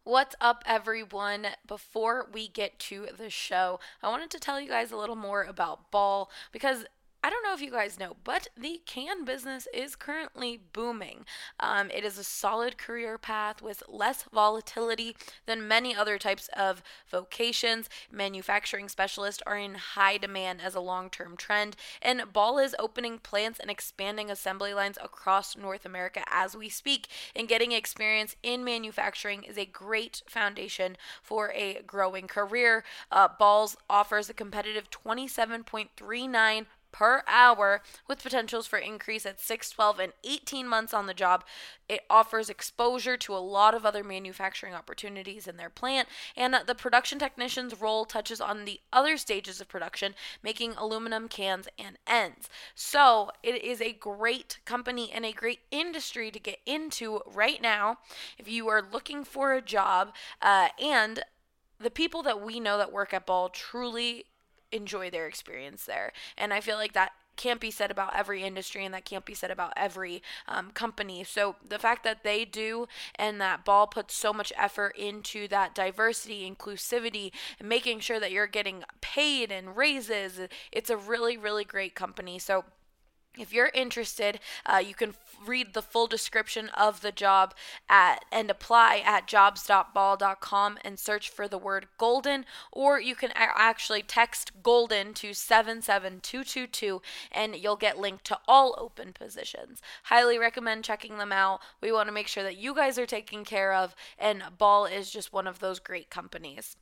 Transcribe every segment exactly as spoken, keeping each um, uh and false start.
What's up, everyone? Before we get to the show, I wanted to tell you guys a little more about Ball because I don't know if you guys know, but the can business is currently booming. Um, it is a solid career path with less volatility than many other types of vocations. Manufacturing specialists are in high demand as a long-term trend, and Ball is opening plants and expanding assembly lines across North America as we speak. And getting experience in manufacturing is a great foundation for a growing career. Uh, Balls offers a competitive twenty-seven point three nine per hour with potentials for increase at six, twelve, and eighteen months on the job. It offers exposure to a lot of other manufacturing opportunities in their plant, and the production technician's role touches on the other stages of production, making aluminum cans and ends. So it is a great company and a great industry to get into right now if you are looking for a job, uh, and the people that we know that work at Ball truly enjoy their experience there. And I feel like that can't be said about every industry, and that can't be said about every um, company. So the fact that they do, and that Ball puts so much effort into that diversity, inclusivity, and making sure that you're getting paid and raises, it's a really, really great company. So if you're interested, uh, you can f- read the full description of the job at and apply at jobs dot ball dot com and search for the word golden, or you can a- actually text golden to seven seven two two two and you'll get linked to all open positions. Highly recommend checking them out. We want to make sure that you guys are taken care of, and Ball is just one of those great companies.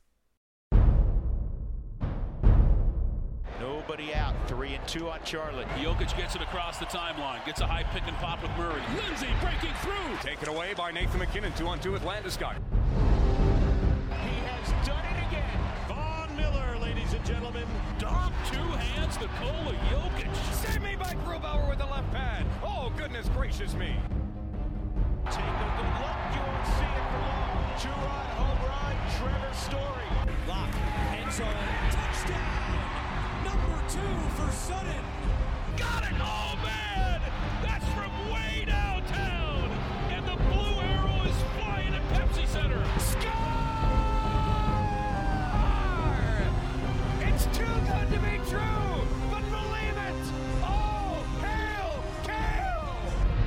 Nobody out. Three and two on Charlotte. Jokic gets it across the timeline. Gets a high pick and pop with Murray. Lindsay breaking through. Taken away by Nathan McKinnon. Two on two with Landeskog. He has done it again. Von Miller, ladies and gentlemen. Dom two hands Nikola Jokic. Save me by Grubauer with the left pad. Oh, goodness gracious me. Take a good look. You won't see it for long. Two-run home run. Trevor Story. Lock. End zone. Touchdown. Number two for Sutton. Got it! Oh, man! That's from way downtown! And the blue arrow is flying at Pepsi Center. Score! It's too good to be true, but believe it! Oh, hail, Kale!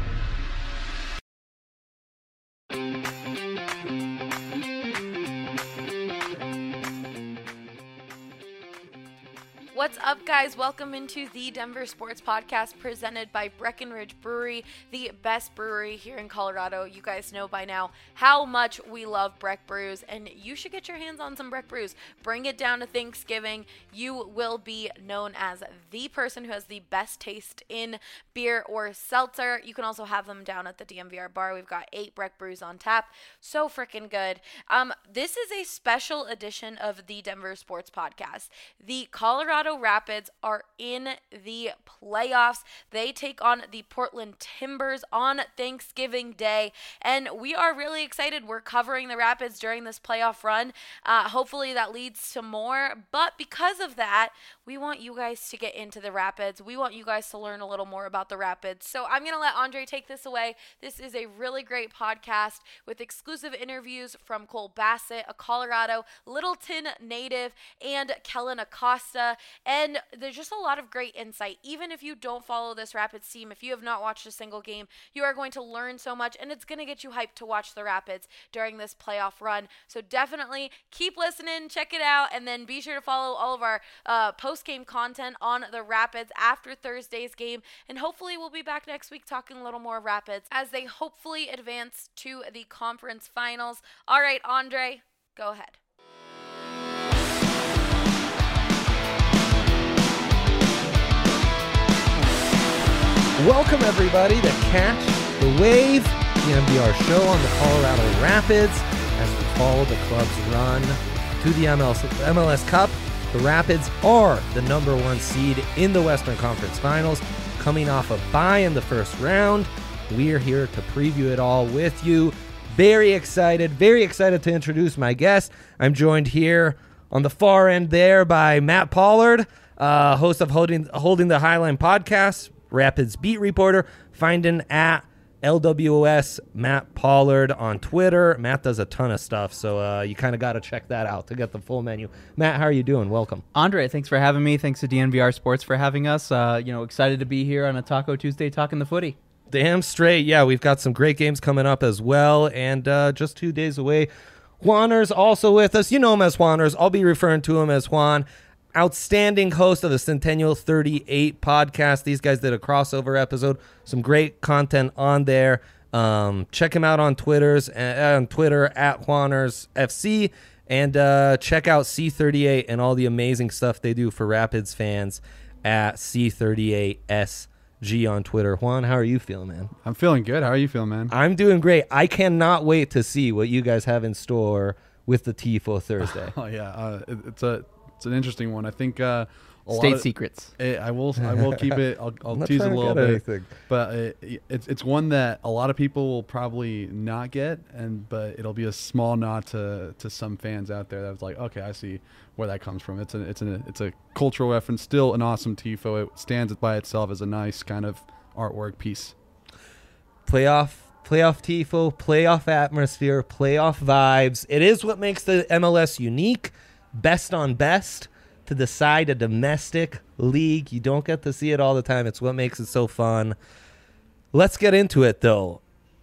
What's up, guys? Welcome into the Denver Sports Podcast presented by Breckenridge Brewery, the best brewery here in Colorado. You guys know by now how much we love Breck Brews, and you should get your hands on some Breck Brews. Bring it down to Thanksgiving. You will be known as the person who has the best taste in beer or seltzer. You can also have them down at the D M V R bar. We've got eight Breck Brews on tap. So freaking good. Um, this is a special edition of the Denver Sports Podcast. The Colorado Rapids are in the playoffs. They take on the Portland Timbers on Thanksgiving Day, and we are really excited. We're covering the Rapids during this playoff run. Uh, hopefully that leads to more, but because of that, we want you guys to get into the Rapids. We want you guys to learn a little more about the Rapids. So I'm going to let Andre take this away. This is a really great podcast with exclusive interviews from Cole Bassett, a Colorado Littleton native, and Kellen Acosta. And there's just a lot of great insight. Even if you don't follow this Rapids team, if you have not watched a single game, you are going to learn so much, and it's going to get you hyped to watch the Rapids during this playoff run. So definitely keep listening, check it out, and then be sure to follow all of our uh, post-game content on the Rapids after Thursday's game. And hopefully we'll be back next week talking a little more Rapids as they hopefully advance to the conference finals. All right, Andre, go ahead. Welcome, everybody, to Catch the Wave, the N B R show on the Colorado Rapids as we follow the club's run to the M L S, M L S Cup. The Rapids are the number one seed in the Western Conference Finals, coming off a bye in the first round. We are here to preview it all with you. Very excited, very excited to introduce my guest. I'm joined here on the far end there by Matt Pollard, uh, host of Holding, Holding the Highline podcast, Rapids beat reporter, finding at L W O S Matt Pollard on Twitter. Matt does a ton of stuff, so uh, you kind of got to check that out to get the full menu. Matt, how are you doing? Welcome. Andre, thanks for having me. Thanks to D N V R Sports for having us. Uh, you know, excited to be here on a Taco Tuesday talking the footy. Damn straight. Yeah, we've got some great games coming up as well, and uh, just two days away. Juaner's also with us. You know him as Juaner's. I'll be referring to him as Juan. Outstanding host of the Centennial thirty-eight podcast. These guys did a crossover episode. Some great content on there. Um, check him out on Twitter's uh, on Twitter at Juaner's F C, and uh, check out C thirty-eight and all the amazing stuff they do for Rapids fans at C thirty-eight S G on Twitter. Juan, how are you feeling, man? I'm feeling good. How are you feeling, man? I'm doing great. I cannot wait to see what you guys have in store with the Tifo Thursday. Oh yeah, uh, it, it's a it's an interesting one. I think uh, a State lot of, secrets. It, I will I will keep it. I'll, I'll I'm not tease it a trying to little get bit, anything. but it, it's it's one that a lot of people will probably not get, and but it'll be a small nod to to some fans out there that's like, okay, I see where that comes from. It's a it's a it's a cultural reference. Still an awesome Tifo. It stands by itself as a nice kind of artwork piece. Playoff, playoff Tifo, playoff atmosphere, playoff vibes. It is what makes the M L S unique. Best on best to decide a domestic league. You don't get to see it all the time. It's what makes it so fun. Let's get into it, though.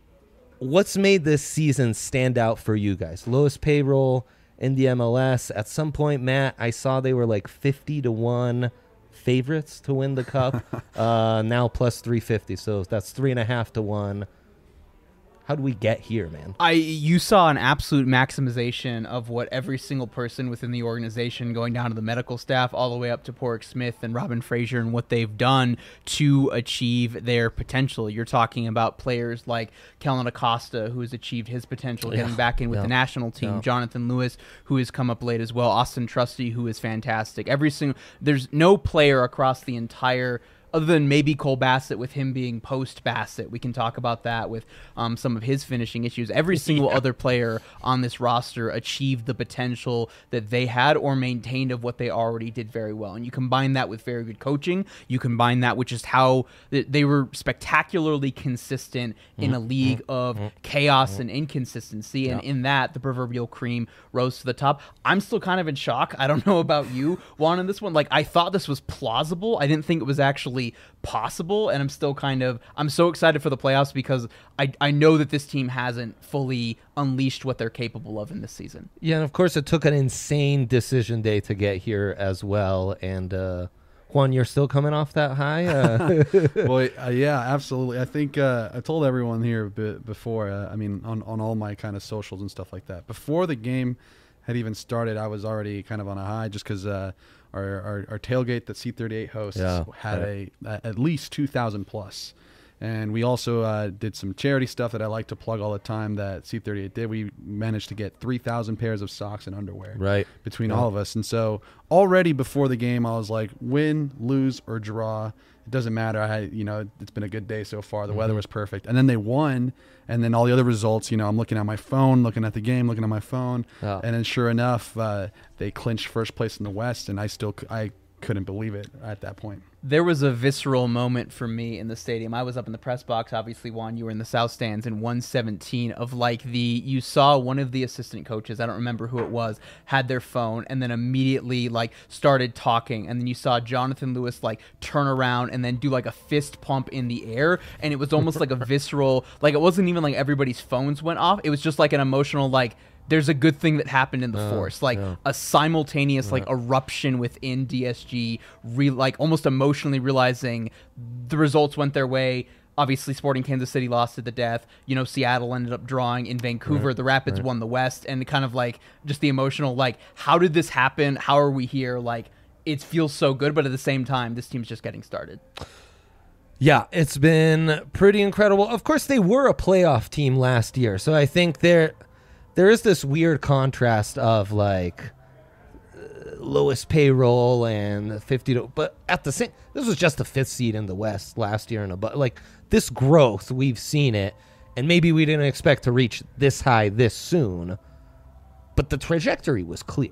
What's made this season stand out for you guys? Lowest payroll in the M L S. At some point, Matt, I saw they were like fifty to one favorites to win the cup. uh, now plus three fifty, so that's three and a half to one. How do we get here, man? I you saw an absolute maximization of what every single person within the organization, going down to the medical staff, all the way up to Porrick Smith and Robin Fraser, and what they've done to achieve their potential. You're talking about players like Kellen Acosta, who has achieved his potential, getting Yeah, back in with yeah, the national team. yeah. Jonathan Lewis, who has come up late as well. Austin Trusty, who is fantastic. Every single there's no player across the entire, other than maybe Cole Bassett, with him being post-Bassett. We can talk about that with um, some of his finishing issues. Every single yeah. other player on this roster achieved the potential that they had or maintained of what they already did very well. And you combine that with very good coaching. You combine that with just how th- they were spectacularly consistent in mm-hmm. a league of mm-hmm. chaos mm-hmm. and inconsistency. And yeah. in that, the proverbial cream rose to the top. I'm still kind of in shock. I don't know about you, Juan, in this one. Like, I thought this was plausible. I didn't think it was actually possible, and I'm still kind of I'm so excited for the playoffs because I, I know that this team hasn't fully unleashed what they're capable of in this season. Yeah, and of course it took an insane decision day to get here as well, and uh Juan, you're still coming off that high? Uh. Well, uh, yeah, absolutely. I think uh, I told everyone here b- before, uh, I mean, on, on all my kind of socials and stuff like that. Before the game had even started, I was already kind of on a high just because uh, our, our, our tailgate that C thirty-eight hosts yeah, had right. a, a at least two thousand plus. And we also uh, did some charity stuff that I like to plug all the time that C thirty-eight did. We managed to get three thousand pairs of socks and underwear right. between yeah. all of us. And so already before the game, I was like, win, lose, or draw, it doesn't matter. I had, you know, it's been a good day so far. The mm-hmm. weather was perfect. And then they won. And then all the other results, you know, I'm looking at my phone, looking at the game, looking at my phone. Oh. And then sure enough, uh, they clinched first place in the West. And I still, I couldn't believe it at that point. There was a visceral moment for me in the stadium. I was up in the press box. Obviously, Juan, you were in the south stands in one seventeen of like the, you saw one of the assistant coaches, I don't remember who it was, had their phone and then immediately like started talking. And then you saw Jonathan Lewis like turn around and then do like a fist pump in the air. And it was almost like a visceral, like it wasn't even like everybody's phones went off. It was just like an emotional, like, there's a good thing that happened in the uh, force, like yeah. a simultaneous like eruption within D S G, re- like almost emotionally realizing the results went their way. Obviously, Sporting Kansas City lost to the death. You know, Seattle ended up drawing in Vancouver. Right, the Rapids right. won the West, and kind of like just the emotional, like, how did this happen? How are we here? Like, it feels so good, but at the same time, this team's just getting started. Yeah, it's been pretty incredible. Of course, they were a playoff team last year, so I think they're. There is this weird contrast of like uh, lowest payroll and fifty to, but at the same, this was just the fifth seed in the West last year, and above. Like this growth, we've seen it, and maybe we didn't expect to reach this high this soon, but the trajectory was clear.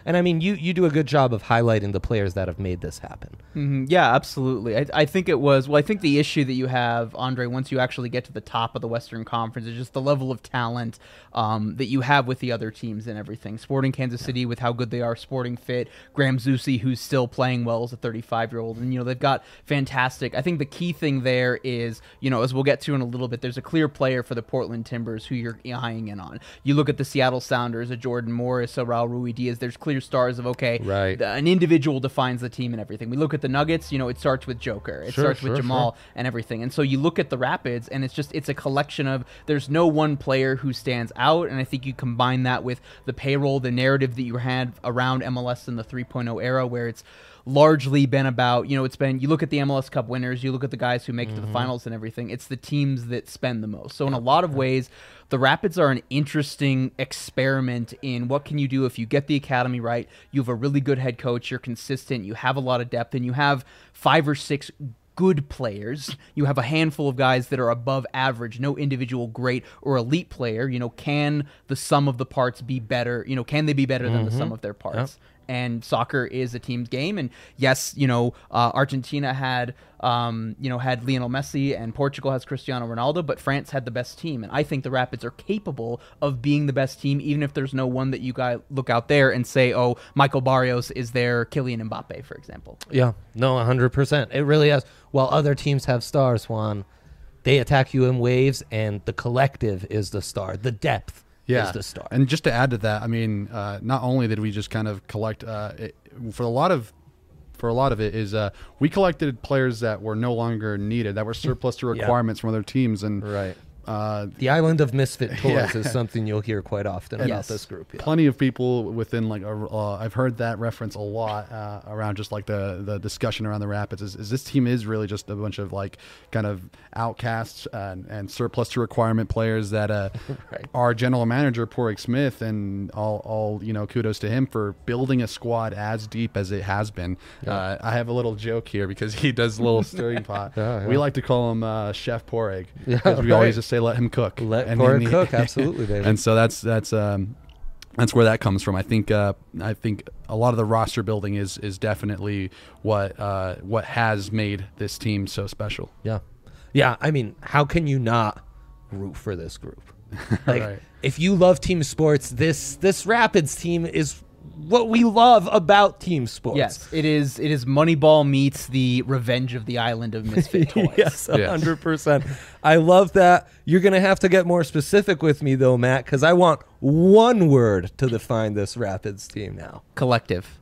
And I mean, you, you do a good job of highlighting the players that have made this happen. Mm-hmm. Yeah, absolutely. I, I think it was, well, I think the issue that you have, Andre, once you actually get to the top of the Western Conference is just the level of talent um, that you have with the other teams and everything. Sporting Kansas City yeah. with how good they are, Sporting Fit, Graham Zusi, who's still playing well as a thirty-five-year-old. And, you know, they've got fantastic. I think the key thing there is, you know, as we'll get to in a little bit, there's a clear player for the Portland Timbers who you're eyeing in on. You look at the Seattle Sounders, a Jordan Morris, a Raul Ruidiaz, there's clear stars of, okay, right. the, an individual defines the team and everything. We look at the Nuggets, you know, it starts with Joker. It sure, starts sure, with Jamal sure. and everything. And so you look at the Rapids, and it's just, it's a collection of, there's no one player who stands out, and I think you combine that with the payroll, the narrative that you had around M L S in the three point oh era, where it's largely been about, you know, it's been, you look at the M L S Cup winners, you look at the guys who make mm-hmm. it to the finals and everything, it's the teams that spend the most. So in a lot of ways, the Rapids are an interesting experiment in what can you do if you get the academy right, you have a really good head coach, you're consistent, you have a lot of depth, and you have five or six good players. You have a handful of guys that are above average, no individual great or elite player. You know, can the sum of the parts be better? You know, can they be better mm-hmm. than the sum of their parts? Yep. And soccer is a team's game. And yes, you know, uh, Argentina had, um, you know, had Lionel Messi, and Portugal has Cristiano Ronaldo, but France had the best team. And I think the Rapids are capable of being the best team, even if there's no one that you guys look out there and say, oh, Michael Barrios is their Kylian Mbappe, for example. Yeah, no, one hundred percent. It really is. While other teams have stars, Juan, they attack you in waves, and the collective is the star, the depth. Yeah, is the star. And just to add to that, I mean, uh, not only did we just kind of collect uh, it, for a lot of for a lot of it is uh, we collected players that were no longer needed, that were surplus to requirements yeah. from other teams, and right. Uh, the island of misfit toys yeah. is something you'll hear quite often about yes. this group. Yeah. Plenty of people within like a, uh, I've heard that reference a lot uh, around just like the the discussion around the Rapids is, is this team is really just a bunch of like kind of outcasts and, and surplus to requirement players that uh, right. our general manager Porig Smith, and all all you know kudos to him for building a squad as deep as it has been. Yeah. Uh, I have a little joke here because he does a little stirring pot. Yeah, yeah. We like to call him uh, Chef Porig because yeah, we right. always just say let him cook. Let and Porig cook, absolutely, baby. And so that's that's um, that's where that comes from. I think uh, I think a lot of the roster building is is definitely what uh, what has made this team so special. Yeah, yeah. I mean, how can you not root for this group? Like, right. if you love team sports, this this Rapids team is what we love about team sports. Yes, it is. It is Moneyball meets the Revenge of the Island of Misfit Toys. Yes, one hundred percent. I love that. You're going to have to get more specific with me, though, Matt, because I want one word to define this Rapids team now. Collective.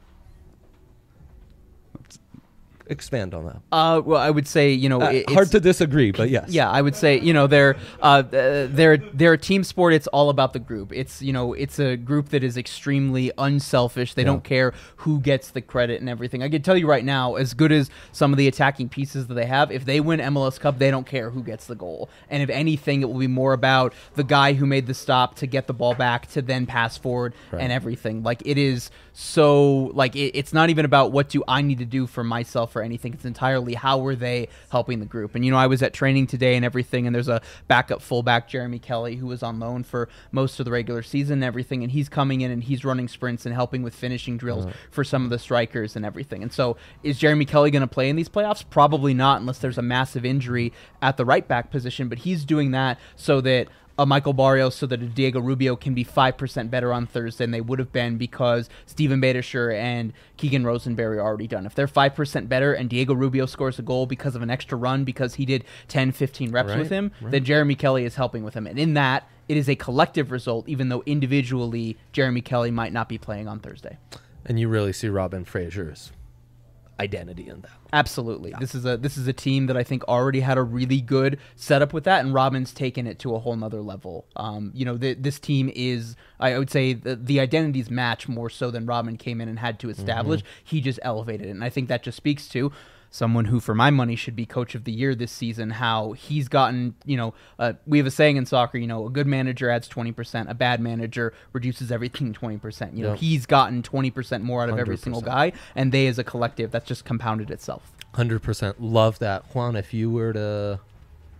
Expand on that. Uh, well, I would say, you know, uh, it, hard to disagree, but yes. Yeah, I would say, you know, they're uh, they're they're a team sport. It's all about the group. It's, you know, it's a group that is extremely unselfish. They yeah. don't care who gets the credit and everything. I can tell you right now, as good as some of the attacking pieces that they have, if they win M L S Cup, they don't care who gets the goal. And if anything, it will be more about the guy who made the stop to get the ball back to then pass forward right. and everything. Like, it is so, like, it, it's not even about what do I need to do for myself or anything. It's entirely how are they helping the group. And, you know, I was at training today and everything, and there's a backup fullback, Jeremy Kelly, who was on loan for most of the regular season and everything, and he's coming in and he's running sprints and helping with finishing drills uh-huh. for some of the strikers and everything. And so is Jeremy Kelly going to play in these playoffs? Probably not, unless there's a massive injury at the right back position, but he's doing that so that a Michael Barrios, so that a Diego Rubio can be five percent better on Thursday than they would have been because Steven Badischer and Keegan Rosenberry are already done. If they're five percent better and Diego Rubio scores a goal because of an extra run because he did ten, fifteen reps right, with him, right. then Jeremy Kelly is helping with him. And in that, it is a collective result, even though individually Jeremy Kelly might not be playing on Thursday. And you really see Robin Fraser's identity in that. Absolutely. Yeah. This is a this is a team that I think already had a really good setup with that, and Robin's taken it to a whole nother level. Um, you know, the, this team is, I would say, the, the identities match more so than Robin came in and had to establish. Mm-hmm. He just elevated it, and I think that just speaks to someone who, for my money, should be coach of the year this season, how he's gotten, you know, uh, we have a saying in soccer, you know, a good manager adds twenty percent, a bad manager reduces everything twenty percent. You know, yep. he's gotten twenty percent more out of every single guy, and they as a collective, that's just compounded itself. one hundred percent. Love that. Juan, if you were to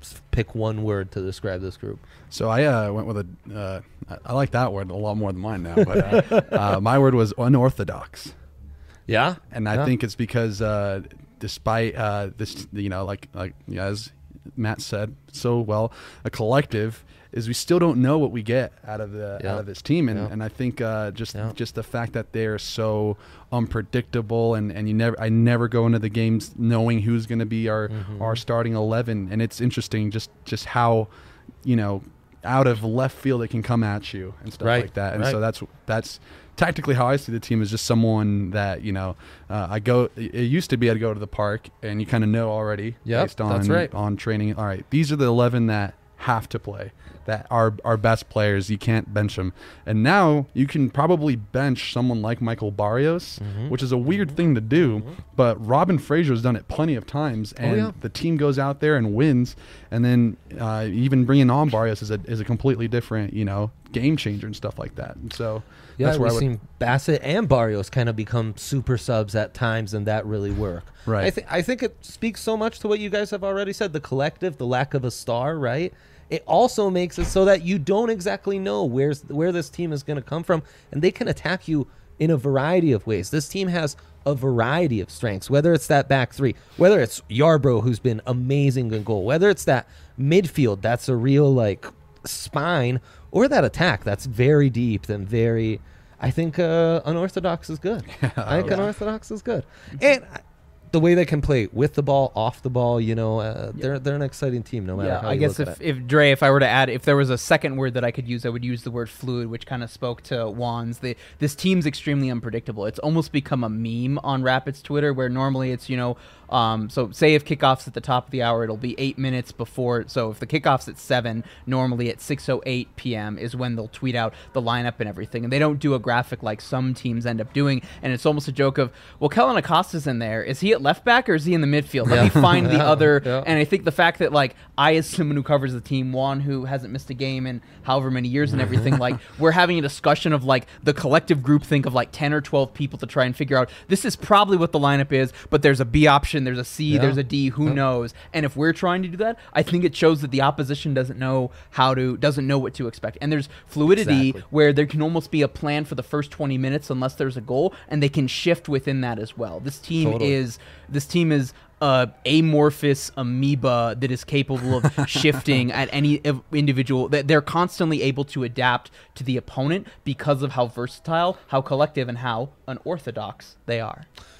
s- pick one word to describe this group. So I uh, went with a. Uh, I, I like that word a lot more than mine now. But uh, uh, my word was unorthodox. Yeah, And I Yeah. think it's because uh, despite uh, this, you know, like like as Matt said so well, a collective is we still don't know what we get out of the Yeah. out of this team, and, Yeah. and I think uh, just Yeah. just the fact that they're so unpredictable, and, and you never I never go into the games knowing who's going to be our Mm-hmm. our starting eleven, and it's interesting just just how, you know, out of left field it can come at you and stuff Right, like that, and right. so that's that's tactically how I see the team is just someone that, you know, uh, I go. It used to be I'd go to the park and you kind of know already Yep, based on that's right. on training. All right, these are the eleven that have to play, that are our best players. You can't bench them, and now you can probably bench someone like Michael Barrios, Mm-hmm. which is a weird thing to do, but Robin Fraser's done it plenty of times, and Oh, yeah. the team goes out there and wins, and then uh, even bringing on Barrios is a is a completely different, you know, game changer and stuff like that. And so Yeah, that's where we've I would. seen Bassett and Barrios kind of become super subs at times, and that really work. Right. I think I think it speaks so much to what you guys have already said. The collective, the lack of a star, right? It also makes it so that you don't exactly know where's where this team is going to come from, and they can attack you in a variety of ways. This team has a variety of strengths, whether it's that back three, whether it's Yarbrough, who's been amazing in goal, whether it's that midfield that's a real like spine, or that attack that's very deep and very. I think uh, unorthodox is good. I think unorthodox is good, and I, the way they can play with the ball, off the ball, you know, uh, they're they're an exciting team no matter Yeah, how I you guess look if, at it. if Dre, if I were to add, if there was a second word that I could use, I would use the word fluid, which kind of spoke to Juan's. The, this team's extremely unpredictable. It's almost become a meme on Rapids Twitter, where normally it's, you know, um, so say if kickoff's at the top of the hour, it'll be eight minutes before. So if the kickoff's at seven, normally at six oh eight p.m. is when they'll tweet out the lineup and everything. And they don't do a graphic like some teams end up doing. And it's almost a joke of, well, Kellen Acosta's in there. Is he at left back or is he in the midfield? Let me find the other. Yeah. And I think the fact that, like, I, as someone who covers the team, Juan, who hasn't missed a game in however many years and everything, like, we're having a discussion of, like, the collective group think of, like, ten or twelve people to try and figure out, this is probably what the lineup is, but there's a B option, there's a C, Yeah. there's a D, who knows? And if we're trying to do that, I think it shows that the opposition doesn't know how to, doesn't know what to expect. And there's fluidity Exactly. where there can almost be a plan for the first twenty minutes unless there's a goal, and they can shift within that as well. This team Totally. is, this team is uh, amorphous amoeba that is capable of shifting at any ev- individual. That they're constantly able to adapt to the opponent because of how versatile, how collective, and how unorthodox they are.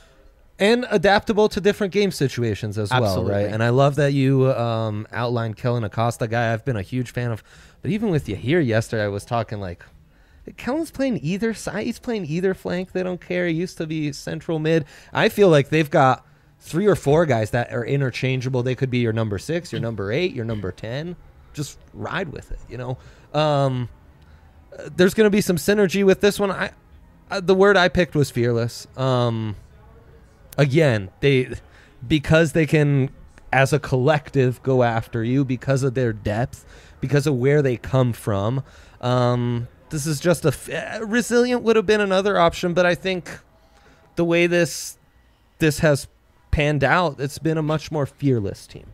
And adaptable to different game situations as well, Absolutely. right? And I love that you um, outlined Kellen Acosta, guy I've been a huge fan of. But even with you here yesterday, I was talking like, Kellen's playing either side. He's playing either flank. They don't care. He used to be central mid. I feel like they've got three or four guys that are interchangeable. They could be your number six, your number eight, your number ten. Just ride with it, you know? Um, uh, there's going to be some synergy with this one. I, uh, the word I picked was fearless. Um... Again, they because they can, as a collective, go after you because of their depth, because of where they come from. Um, this is just a f- uh, resilient would have been another option, but I think the way this this has panned out, it's been a much more fearless team.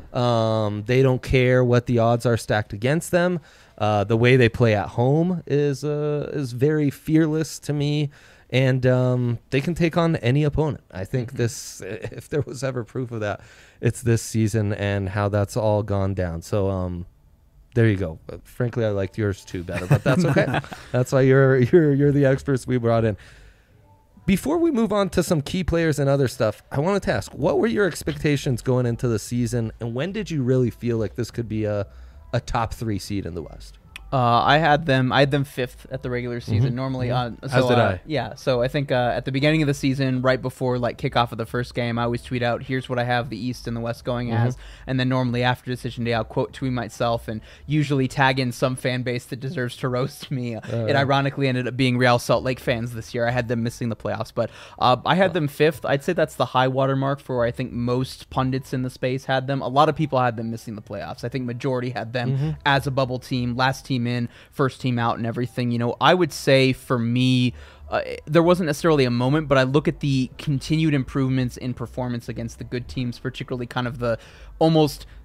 Um, they don't care what the odds are stacked against them. Uh, the way they play at home is uh, is very fearless to me. And um, they can take on any opponent. I think this, if there was ever proof of that, it's this season and how that's all gone down. So um, there you go. But frankly, I liked yours too better, but that's okay. That's why you're you're you're the experts we brought in. Before we move on to some key players and other stuff, I wanted to ask, what were your expectations going into the season, and when did you really feel like this could be a a top three seed in the West? Uh, I had them. I had them fifth at the regular season. Normally, uh, so, As did uh, I. Yeah. So I think uh, at the beginning of the season, right before like kickoff of the first game, I always tweet out, "Here's what I have the East and the West going as." And then normally after decision day, I'll quote tweet myself and usually tag in some fan base that deserves to roast me. It ironically ended up being Real Salt Lake fans this year. I had them missing the playoffs, but uh, I had them fifth. I'd say that's the high water mark for where I think most pundits in the space had them. A lot of people had them missing the playoffs. I think majority had them as a bubble team, last team in, first team out and everything. You know, I would say for me, uh, there wasn't necessarily a moment, but I look at the continued improvements in performance against the good teams, particularly kind of the almost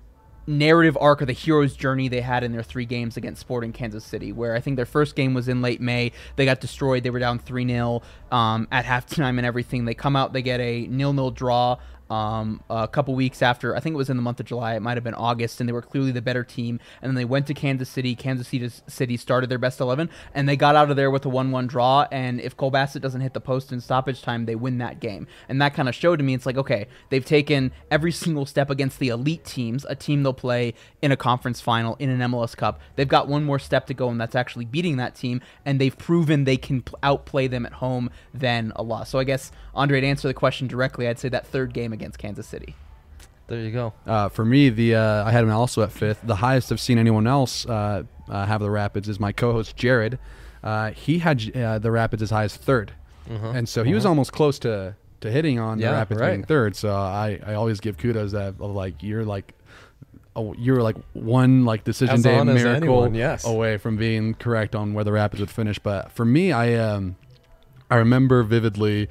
narrative arc or the hero's journey they had in their three games against Sporting Kansas City, where I think their first game was in late May. They got destroyed. They were down three nil um, at halftime and everything. They come out, they get a nil nil draw um, a couple weeks after. I think it was in the month of July. It might have been August, and they were clearly the better team. And then they went to Kansas City. Kansas City started their best eleven, and they got out of there with a one one draw. And if Cole Bassett doesn't hit the post in stoppage time, they win that game. And that kind of showed to me, it's like, okay, they've taken every single step against the elite teams, a team they'll play in a conference final, in an M L S Cup. They've got one more step to go, and that's actually beating that team. And they've proven they can outplay them at home than a loss. So I guess, Andre, to answer the question directly, I'd say that third game against Kansas City. There you go. Uh, for me, the uh, I had him also at fifth. The highest I've seen anyone else uh, uh, have the Rapids is my co-host Jared. Uh, he had uh, the Rapids as high as third, Uh-huh. and so he uh-huh. was almost close to, to hitting on Yeah, the Rapids right. being third. So I, I always give kudos that of like you're like oh, you're like one like decision As day on as miracle anyone, yes. away from being correct on where the Rapids would finish. But for me, I um I remember vividly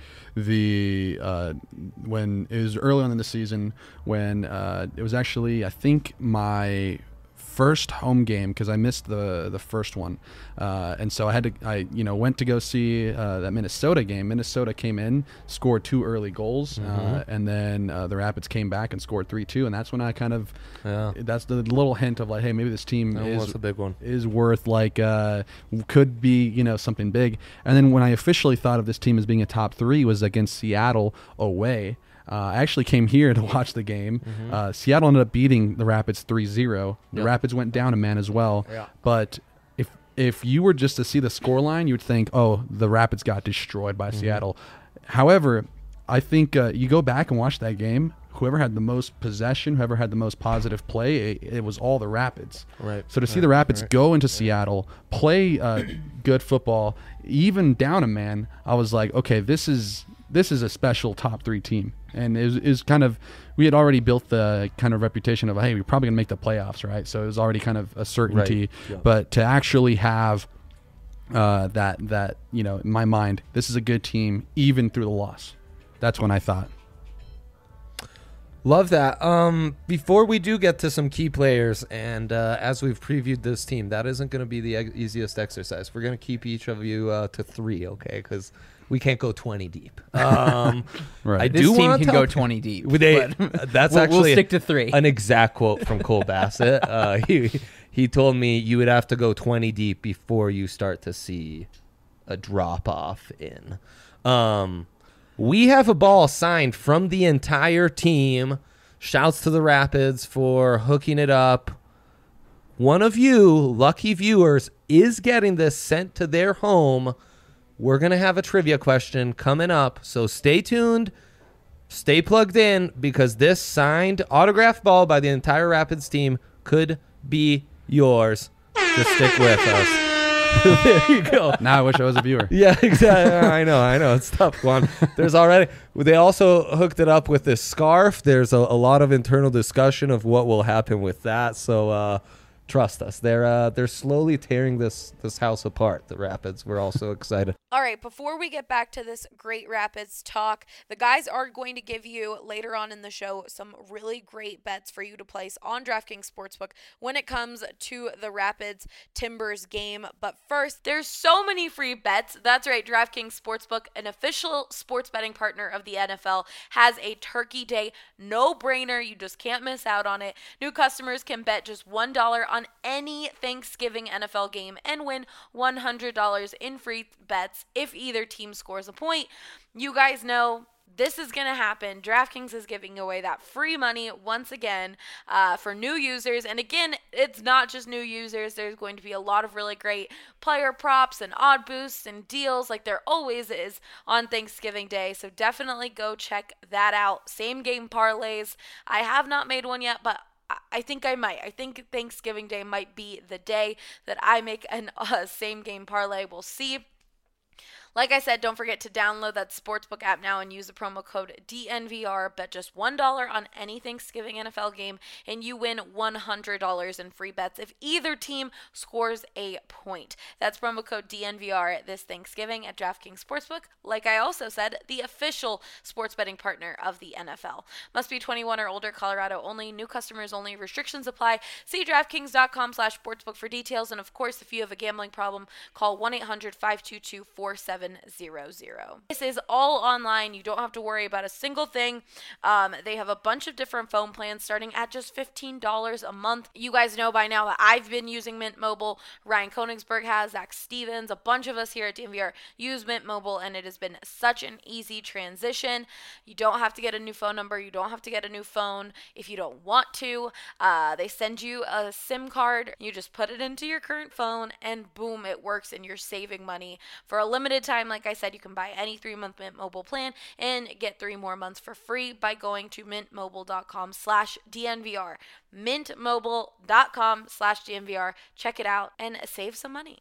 the uh, when it was early on in the season when uh, it was actually I think my first home game because I missed the the first one, uh, and so I had to I you know went to go see uh, that Minnesota game. Minnesota came in, scored two early goals, Mm-hmm. uh, and then uh, the Rapids came back and scored three two, and that's when I kind of Yeah. that's the little hint of like, hey, maybe this team That is was a big one. is worth like uh, could be you know something big. And then when I officially thought of this team as being a top three was against Seattle away. Uh, I actually came here to watch the game. Mm-hmm. Uh, Seattle ended up beating the Rapids three zero. The Yep. Rapids went down a man as well. Yeah. But if if you were just to see the scoreline, you would think, oh, the Rapids got destroyed by Mm-hmm. Seattle. However, I think uh, you go back and watch that game. Whoever had the most possession, whoever had the most positive play, it, it was all the Rapids. Right. So to see Right. the Rapids Right. go into Seattle, play uh, good football, even down a man, I was like, okay, this is this is a special top three team. And it was, it was kind of, we had already built the kind of reputation of, hey, we're probably going to make the playoffs, right? So it was already kind of a certainty. Right. Yeah. But to actually have uh, that, that, you know, in my mind, this is a good team, even through the loss. That's when I thought. Love that. Um, before we do get to some key players, and uh, as we've previewed this team, that isn't going to be the ex- easiest exercise. We're going to keep each of you uh, to three, okay? Because we can't go twenty deep. Um, Right. I This do team want can to go twenty deep. They, but that's we'll, actually we'll stick to three. an exact quote from Cole Bassett. Uh, he he told me you would have to go twenty deep before you start to see a drop off in. Um, we have a ball signed from the entire team. Shouts to the Rapids for hooking it up. One of you lucky viewers is getting this sent to their home. We're going to have a trivia question coming up, so stay tuned. Stay plugged in because this signed autograph ball by the entire Rapids team could be yours. Just stick with us. There you go. Now I wish I was a viewer. Yeah, exactly. I know, I know. It's tough, Juan. There's already, they also hooked it up with this scarf. There's a, a lot of internal discussion of what will happen with that. So uh, trust us. They're uh, they're slowly tearing this this house apart, the Rapids. We're all so excited. All right, before we get back to this great Rapids talk, the guys are going to give you later on in the show some really great bets for you to place on DraftKings Sportsbook when it comes to the Rapids Timbers game. But first, there's so many free bets. That's right, DraftKings Sportsbook, an official sports betting partner of the N F L, has a Turkey Day no-brainer. You just can't miss out on it. New customers can bet just one dollar on any Thanksgiving N F L game and win one hundred dollars in free bets if either team scores a point. You guys know this is going to happen. DraftKings is giving away that free money once again uh, for new users. And again, it's not just new users. There's going to be a lot of really great player props and odd boosts and deals like there always is on Thanksgiving Day. So definitely go check that out. Same game parlays. I have not made one yet, but I think I might. I think Thanksgiving Day might be the day that I make an uh, same game parlay. We'll see. Like I said, don't forget to download that Sportsbook app now and use the promo code D N V R. Bet just one dollar on any Thanksgiving N F L game, and you win one hundred dollars in free bets if either team scores a point. That's promo code D N V R this Thanksgiving at DraftKings Sportsbook. Like I also said, the official sports betting partner of the N F L. Must be twenty-one or older, Colorado only, new customers only, restrictions apply. See DraftKings.com slash sportsbook for details. And of course, if you have a gambling problem, call one eight hundred five two two four seven zero zero. This is all online. You don't have to worry about a single thing. Um, they have a bunch of different phone plans starting at just fifteen dollars a month. You guys know by now that I've been using Mint Mobile. Ryan Koenigsberg has, Zach Stevens, a bunch of us here at D N V R use Mint Mobile, and it has been such an easy transition. You don't have to get a new phone number. You don't have to get a new phone if you don't want to. Uh, they send you a SIM card. You just put it into your current phone, and boom, it works, and you're saving money. For a limited time, like I said, you can buy any three-month Mint Mobile plan and get three more months for free by going to mintmobile.com slash DNVR. mintmobile.com slash DNVR. Check it out and save some money.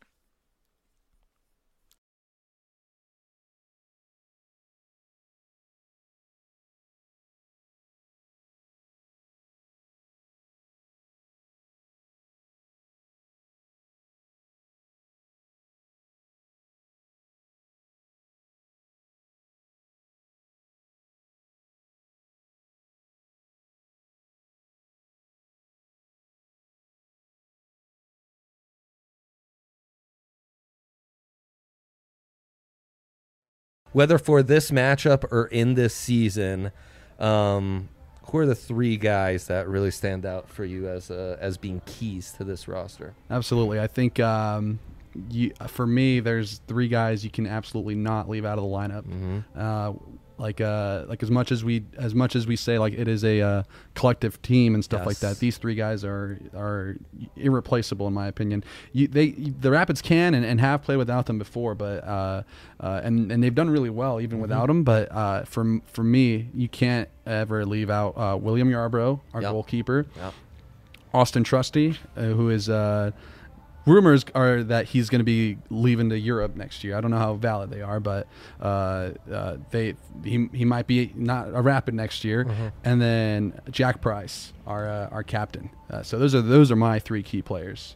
Whether for this matchup or in this season, um, who are the three guys that really stand out for you as uh, as being keys to this roster? Absolutely. I think um, you, for me, there's three guys you can absolutely not leave out of the lineup. Mm-hmm. Uh, like uh, like as much as we as much as we say like it is a uh, collective team and stuff Yes. like that, these three guys are are irreplaceable in my opinion. You, they the Rapids can and, and have played without them before, but uh, uh, and and they've done really well even Mm-hmm. without them. But uh, for for me, you can't ever leave out uh, William Yarbrough, our Yep. goalkeeper, Yep. Austin Trusty, uh, who is. Uh, Rumors are that he's going to be leaving to Europe next year. I don't know how valid they are, but uh, uh, they he, he might be not a Rapid next year. Mm-hmm. And then Jack Price, our uh, our captain. Uh, so those are those are my three key players.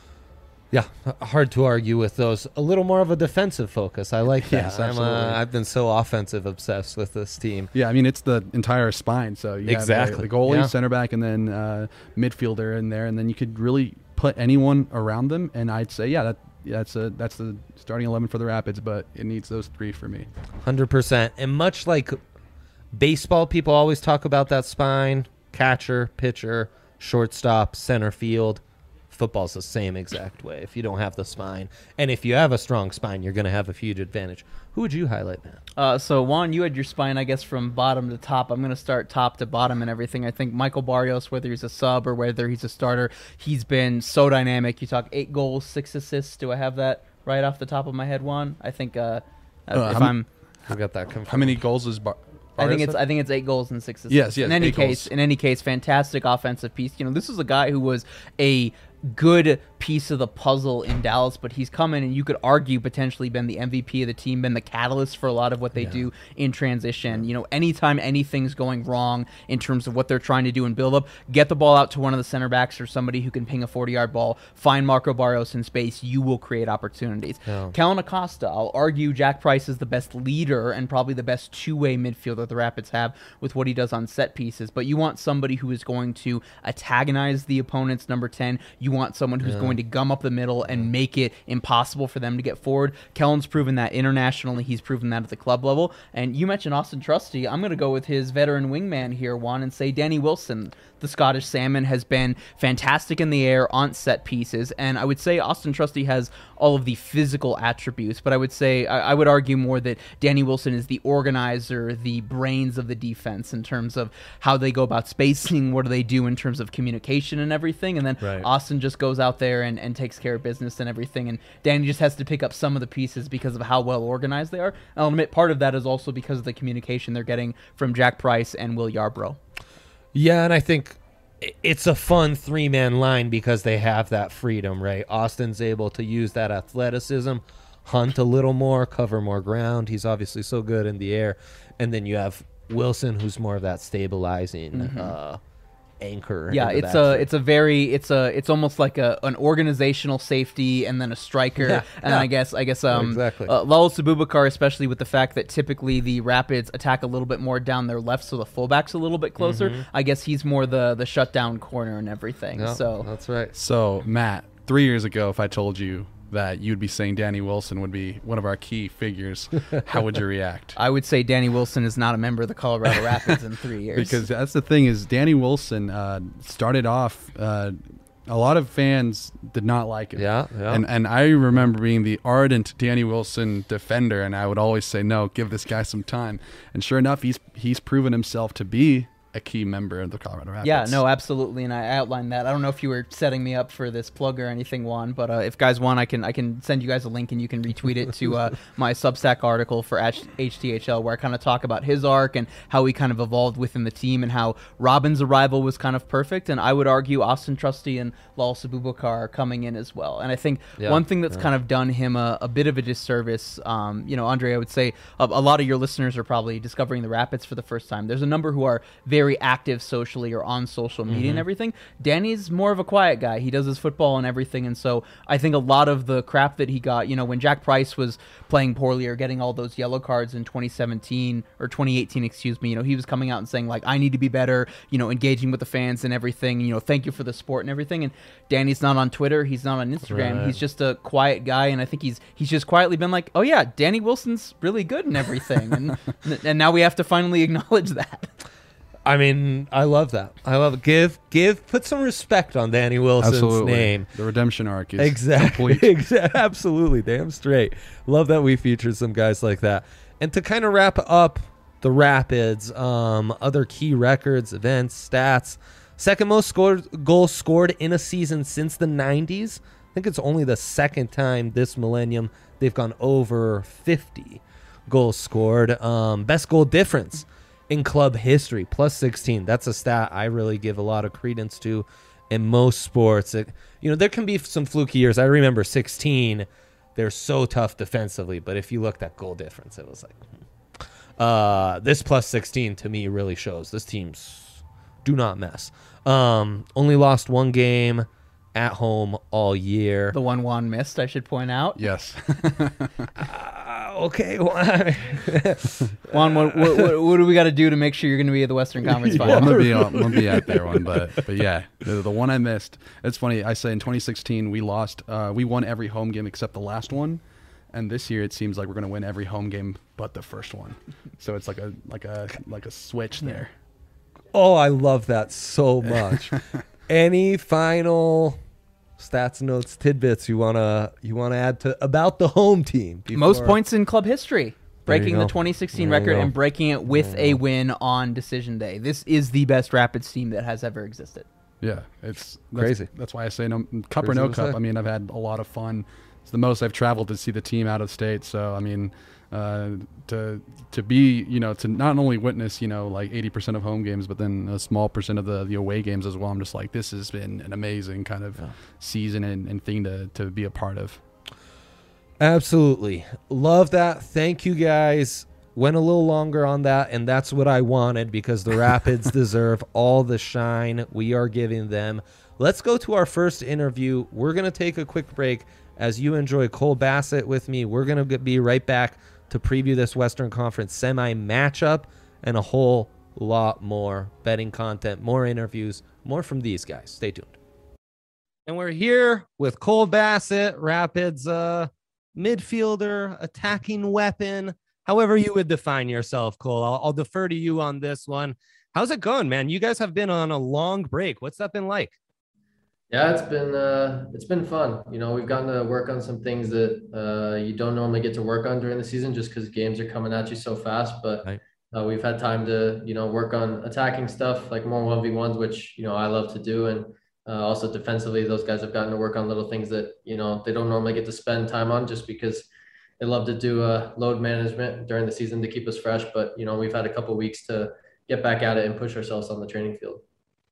Yeah, h- hard to argue with those. A little more of a defensive focus. I like that. Yes, I'm, uh, absolutely. I've been so offensive obsessed with this team. Yeah, I mean it's the entire spine. So you have Exactly. the, the goalie, Yeah. center back, and then uh, midfielder in there, and then you could really put anyone around them. And I'd say, yeah, that that's a that's the starting eleven for the Rapids, but it needs those three for me. one hundred percent. And much like baseball, people always talk about that spine, catcher, pitcher, shortstop, center field. Football's the same exact way. If you don't have the spine, and if you have a strong spine, you're going to have a huge advantage. Who would you highlight, man? Uh, so, Juan, you had your spine, I guess, from bottom to top. I'm going to start top to bottom and everything. I think Michael Barrios, whether he's a sub or whether he's a starter, he's been so dynamic. You talk eight goals, six assists. Do I have that right off the top of my head, Juan? I think uh, Uh, if how m- I'm... I got that confirmed. How many goals is Bar- I think Barrios it's have? I think it's eight goals and six assists. Yes, yes, In any eight case, goals. in any case, fantastic offensive piece. You know, this is a guy who was a good piece of the puzzle in Dallas, but he's come in and you could argue potentially been the M V P of the team, been the catalyst for a lot of what they Yeah. do in transition. You know, anytime anything's going wrong in terms of what they're trying to do in build up, get the ball out to one of the center backs or somebody who can ping a forty-yard ball, find Marco Barrios in space, you will create opportunities. Yeah. Kellen Acosta, I'll argue Jack Price is the best leader and probably the best two-way midfielder the Rapids have with what he does on set pieces, but you want somebody who is going to antagonize the opponent's number ten. You want someone who's going to gum up the middle and make it impossible for them to get forward. Kellen's proven that internationally. He's proven that at the club level. And you mentioned Austin Trusty. I'm going to go with his veteran wingman here, Juan, and say Danny Wilson. The Scottish Salmon has been fantastic in the air on set pieces, and I would say Austin Trusty has all of the physical attributes, but I would say, I, I would argue more that Danny Wilson is the organizer, the brains of the defense in terms of how they go about spacing, what do they do in terms of communication and everything, and then Right. Austin just goes out there and, and takes care of business and everything, and Danny just has to pick up some of the pieces because of how well organized they are. And I'll admit part of that is also because of the communication they're getting from Jack Price and Will Yarbrough. Yeah, and I think i- it's a fun three-man line because they have that freedom, right? Austin's able to use that athleticism, hunt a little more, cover more ground. He's obviously so good in the air. And then you have Wilson, who's more of that stabilizing mm-hmm. uh, anchor. Yeah, it's a it's a very it's a it's almost like a an organizational safety and then a striker. Yeah, and yeah. I guess I guess um exactly. uh, Lalas Abubakar, especially with the fact that typically the Rapids attack a little bit more down their left, so the fullback's a little bit closer. Mm-hmm. I guess he's more the the shutdown corner and everything. Yeah, so that's right. So Matt, three years ago, if I told you that you'd be saying Danny Wilson would be one of our key figures, how would you react? I would say Danny Wilson is not a member of the Colorado Rapids in three years. Because that's the thing is Danny Wilson uh, started off, uh, a lot of fans did not like him. Yeah, yeah. And, and I remember being the ardent Danny Wilson defender, and I would always say, no, give this guy some time. And sure enough, he's he's proven himself to be a key member of the Colorado Rapids. Yeah, no, absolutely, and I outlined that. I don't know if you were setting me up for this plug or anything, Juan, but uh, if guys want, I can I can send you guys a link and you can retweet it to uh, my Substack article for H T H L, where I kind of talk about his arc and how he kind of evolved within the team and how Robin's arrival was kind of perfect, and I would argue Austin Trusty and Lalas Abubakar are coming in as well. And I think yeah, one thing that's yeah. kind of done him a, a bit of a disservice, um, you know, Andre, I would say a, a lot of your listeners are probably discovering the Rapids for the first time. There's a number who are very active socially or on social media mm-hmm. and everything. Danny's more of a quiet guy. He does his football and everything, and so I think a lot of the crap that he got, you know, when Jack Price was playing poorly or getting all those yellow cards in twenty seventeen or twenty eighteen, excuse me, you know, he was coming out and saying like, I need to be better, you know, engaging with the fans and everything, you know, thank you for the support and everything. And Danny's not on Twitter, he's not on Instagram, right. he's just a quiet guy, and I think he's he's just quietly been like, oh yeah, Danny Wilson's really good and everything, and and now we have to finally acknowledge that. I mean, I love that. I love it. Give, give, put some respect on Danny Wilson's Absolutely. name. The redemption arc is exactly, complete. exactly, absolutely, damn straight. Love that we featured some guys like that. And to kind of wrap up the Rapids, um, other key records, events, stats. Second most scored goals scored in a season since the nineties. I think it's only the second time this millennium they've gone over fifty goals scored. Um, best goal difference in club history, plus sixteen. That's a stat I really give a lot of credence to in most sports. It, you know, there can be some fluky years. I remember sixteen, they're so tough defensively, but if you looked at goal difference, it was like, hmm. uh, this plus sixteen to me really shows this team's do not mess. Um, only lost one game at home all year. The one Juan missed, I should point out. Yes. uh, okay. Well, Juan, what, what, what, what do we got to do to make sure you're going to be at the Western Conference Well, Final? I'm gonna be I'm gonna be at there one, but but yeah, the, the one I missed. It's funny. I say in twenty sixteen we lost. Uh, we won every home game except the last one, and this year it seems like we're gonna win every home game but the first one. So it's like a like a like a switch there. Oh, I love that so much. Any final stats, notes, tidbits you wanna you wanna add to about the home team? Before... Most points in club history, breaking go. the twenty sixteen There you record go. and breaking it with There you a go. win on decision day. This is the best Rapids team that has ever existed. Yeah, it's that's, Crazy. That's why I say no cup Crazy or no to cup. say. I mean, I've had a lot of fun. It's the most I've traveled to see the team out of state. So I mean, uh, to to be you know to not only witness you know like eighty percent of home games, but then a small percent of the, the away games as well. I'm just like, this has been an amazing kind of Yeah. season and, and thing to to be a part of. Absolutely. Love that. Thank you guys. Went a little longer on that, and that's what I wanted because the Rapids deserve all the shine we are giving them. Let's go to our first interview. We're going to take a quick break as you enjoy Cole Bassett with me. We're going to be right back to preview this Western Conference semi matchup and a whole lot more betting content, more interviews, more from these guys. Stay tuned. And we're here with Cole Bassett, Rapids uh, midfielder, attacking weapon, however you would define yourself, Cole. I'll, I'll defer to you on this one. How's it going, man? You guys have been on a long break. What's that been like? Yeah, it's been uh, it's been fun. You know, we've gotten to work on some things that uh, you don't normally get to work on during the season, just because games are coming at you so fast. But Right. uh, we've had time to you know work on attacking stuff, like more one v ones, which you know I love to do, and uh, also defensively, those guys have gotten to work on little things that you know they don't normally get to spend time on, just because they love to do uh, load management during the season to keep us fresh. But you know, we've had a couple weeks to get back at it and push ourselves on the training field.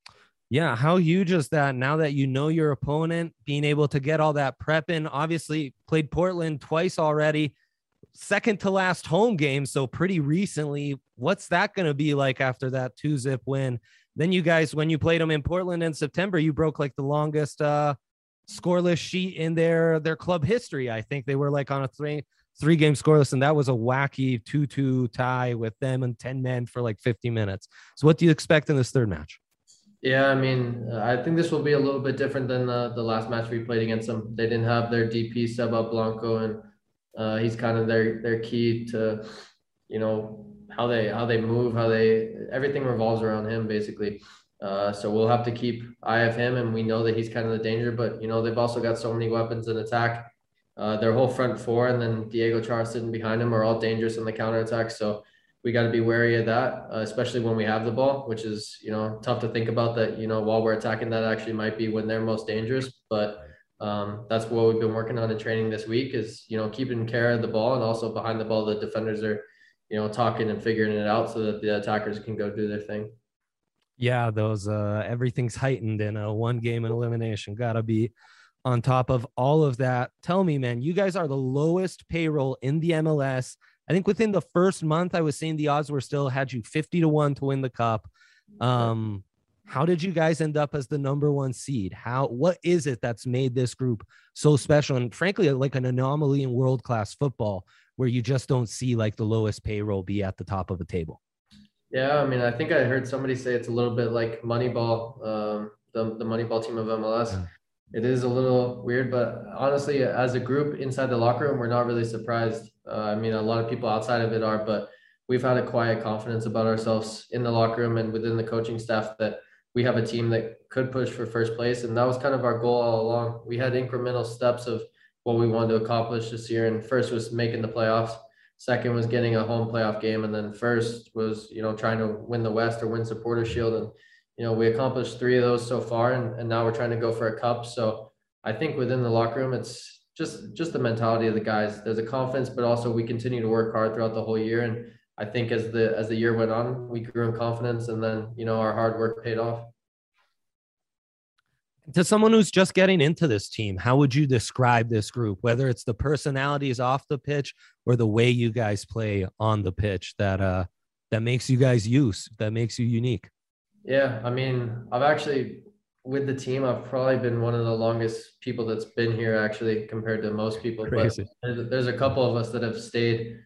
Yeah, how huge is that now that you know your opponent, being able to get all that prep in? Obviously, played Portland twice already, second to last home game, so pretty recently. What's that going to be like after that two-zip win? Then you guys, when you played them in Portland in September, you broke like the longest uh, scoreless sheet in their their club history. I think they were like on a three three game scoreless, and that was a wacky two two tie with them and ten men for like fifty minutes. So what do you expect in this third match? Yeah, I mean, I think this will be a little bit different than the, the last match we played against them. They didn't have their D P Seba Blanco, and uh, he's kind of their their key to, you know, how they how they move, how they everything revolves around him basically. Uh, so we'll have to keep eye of him, and we know that he's kind of the danger. But you know, they've also got so many weapons in attack. Uh, their whole front four, and then Diego Chara sitting behind him, are all dangerous in the counterattack. So we got to be wary of that, uh, especially when we have the ball, which is, you know, tough to think about that, you know, while we're attacking, that actually might be when they're most dangerous. But um, that's what we've been working on in training this week is, you know, keeping care of the ball, and also behind the ball, the defenders are, you know, talking and figuring it out so that the attackers can go do their thing. Yeah, those uh, everything's heightened in a one game and elimination. Got to be on top of all of that. Tell me, man, you guys are the lowest payroll in the M L S. I think within the first month, I was saying the odds were still had you fifty to one to win the cup. Um, how did you guys end up as the number one seed? How, what is it that's made this group so special? And frankly, like an anomaly in world-class football where you just don't see like the lowest payroll be at the top of a table. Yeah. I mean, I think I heard somebody say it's a little bit like Moneyball, um, the, the Moneyball team of M L S. Yeah. It is a little weird, but honestly, as a group inside the locker room, we're not really surprised. Uh, I mean, a lot of people outside of it are, but we've had a quiet confidence about ourselves in the locker room and within the coaching staff that we have a team that could push for first place. And that was kind of our goal all along. We had incremental steps of what we wanted to accomplish this year. And first was making the playoffs. Second was getting a home playoff game. And then first was, you know, trying to win the West or win Supporter Shield. And you know, we accomplished three of those so far, and, and now we're trying to go for a cup. So I think within the locker room, it's just, just the mentality of the guys. There's a confidence, but also we continue to work hard throughout the whole year. And I think as the, as the year went on, we grew in confidence, and then, you know, our hard work paid off. To someone who's just getting into this team, how would you describe this group, whether it's the personalities off the pitch or the way you guys play on the pitch that, uh, that makes you guys use, that makes you unique? Yeah, I mean, I've actually, with the team, I've probably been one of the longest people that's been here actually compared to most people. Crazy. But there's a couple of us that have stayed.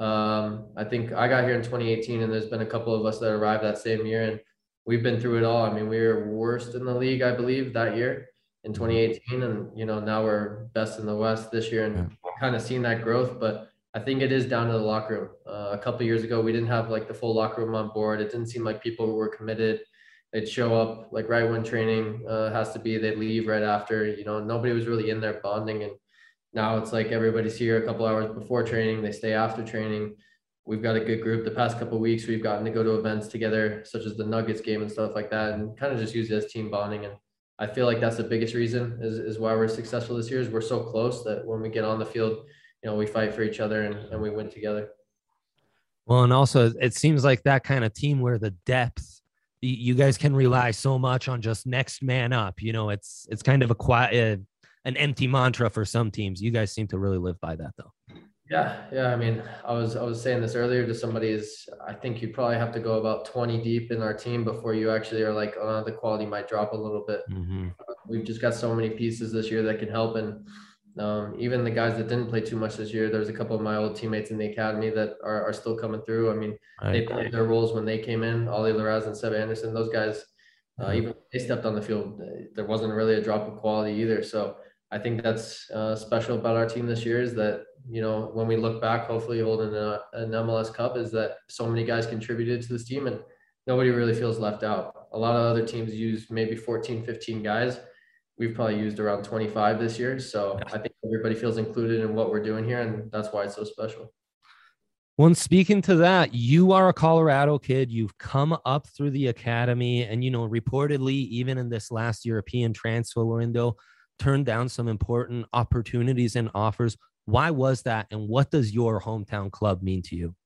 Um, I think I got here in twenty eighteen, and there's been a couple of us that arrived that same year, and we've been through it all. I mean, we were worst in the league, I believe, that year in twenty eighteen, and, you know, now we're best in the West this year, and yeah. kind of seen that growth. But I think it is down to the locker room. Uh, a couple of years ago, we didn't have like the full locker room on board. It didn't seem like people were committed. They'd show up like right when training uh, has to be, they'd leave right after, you know, nobody was really in there bonding. And now it's like everybody's here a couple hours before training, they stay after training. We've got a good group. The past couple of weeks, we've gotten to go to events together, such as the Nuggets game and stuff like that, and kind of just use it as team bonding. And I feel like that's the biggest reason is, is why we're successful this year, is we're so close that when we get on the field, you know, we fight for each other, and, and we win together. Well, and also it seems like that kind of team where the depth, you guys can rely so much on just next man up. You know, it's it's kind of a quiet, uh, an empty mantra for some teams. You guys seem to really live by that, though. Yeah, yeah. I mean, I was I was saying this earlier to somebody. Is I think you probably have to go about twenty deep in our team before you actually are like, oh, the quality might drop a little bit. Mm-hmm. Uh, we've just got so many pieces this year that can help, and um, even the guys that didn't play too much this year, there's a couple of my old teammates in the academy that are, are still coming through. I mean, right. They played their roles when they came in. Ollie Larraz and Seb Anderson, those guys, uh, mm-hmm. even when they stepped on the field, there wasn't really a drop of quality either. So I think that's uh, special about our team this year is that, you know, when we look back, hopefully holding a, an M L S Cup, is that so many guys contributed to this team and nobody really feels left out. A lot of other teams use maybe fourteen, fifteen guys. We've probably used around twenty-five this year. So I think everybody feels included in what we're doing here, and that's why it's so special. When speaking to that, you are a Colorado kid. You've come up through the academy and, you know, reportedly, even in this last European transfer window, turned down some important opportunities and offers. Why was that? And what does your hometown club mean to you?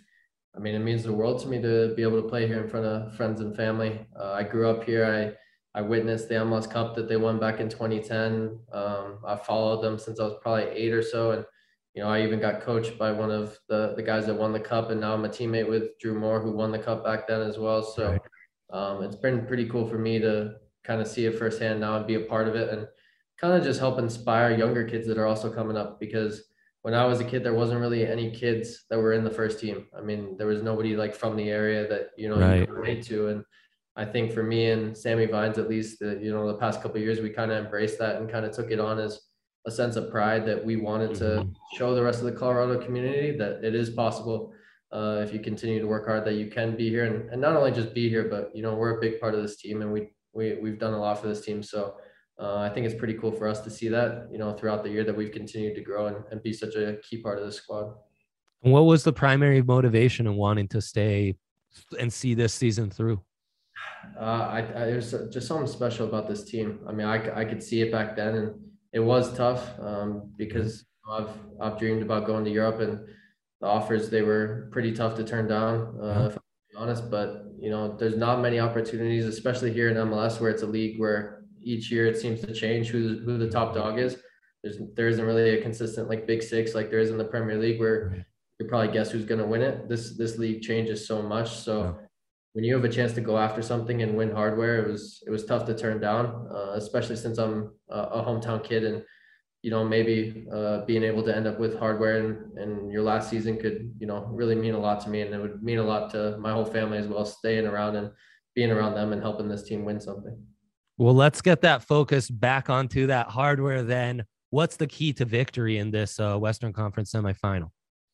I mean, it means the world to me to be able to play here in front of friends and family. Uh, I grew up here. I I witnessed the M L S Cup that they won back in twenty ten. Um, I followed them since I was probably eight or so. And, you know, I even got coached by one of the, the guys that won the cup. And now I'm a teammate with Drew Moore, who won the cup back then as well. So um, it's been pretty cool for me to kind of see it firsthand now and be a part of it and kind of just help inspire younger kids that are also coming up. Because when I was a kid, there wasn't really any kids that were in the first team. I mean, there was nobody like from the area that, you know, Right. you could relate to. And I think for me and Sammy Vines, at least, the, you know, the past couple of years, we kind of embraced that and kind of took it on as a sense of pride that we wanted to Mhm. show the rest of the Colorado community that it is possible uh, if you continue to work hard, that you can be here and, and not only just be here, but, you know, we're a big part of this team and we, we, we've done a lot for this team. So uh, I think it's pretty cool for us to see that, you know, throughout the year that we've continued to grow and, and be such a key part of the squad. What was the primary motivation in wanting to stay and see this season through? Uh, I, I there's just something special about this team. I mean, I, I could see it back then, and it was tough um, because I've I've dreamed about going to Europe, and the offers, they were pretty tough to turn down, uh, if I'm being honest. But you know, there's not many opportunities, especially here in M L S, where it's a league where each year it seems to change who who the top dog is. There's there isn't really a consistent like Big Six like there is in the Premier League, where you probably guess who's going to win it. This this league changes so much, so. Yeah. When you have a chance to go after something and win hardware, it was it was tough to turn down, uh, especially since I'm a, a hometown kid, and you know, maybe uh, being able to end up with hardware and and your last season could, you know, really mean a lot to me, and it would mean a lot to my whole family as well, staying around and being around them and helping this team win something. Well, let's get that focus back onto that hardware then. What's the key to victory in this uh, Western Conference semifinal?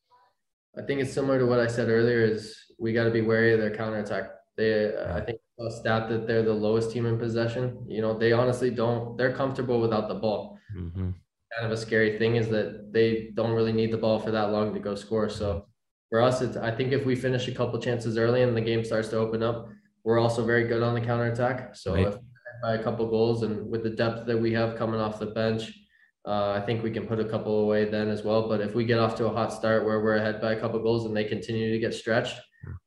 I think it's similar to what I said earlier, is we got to be wary of their counterattack. They, uh, I think a stat that they're the lowest team in possession. You know, they honestly don't, they're comfortable without the ball. Mm-hmm. Kind of a scary thing is that they don't really need the ball for that long to go score. So for us, it's, I think if we finish a couple chances early and the game starts to open up, we're also very good on the counterattack. So right. if by a couple goals and with the depth that we have coming off the bench, Uh, I think we can put a couple away then as well. But if we get off to a hot start where we're ahead by a couple goals and they continue to get stretched,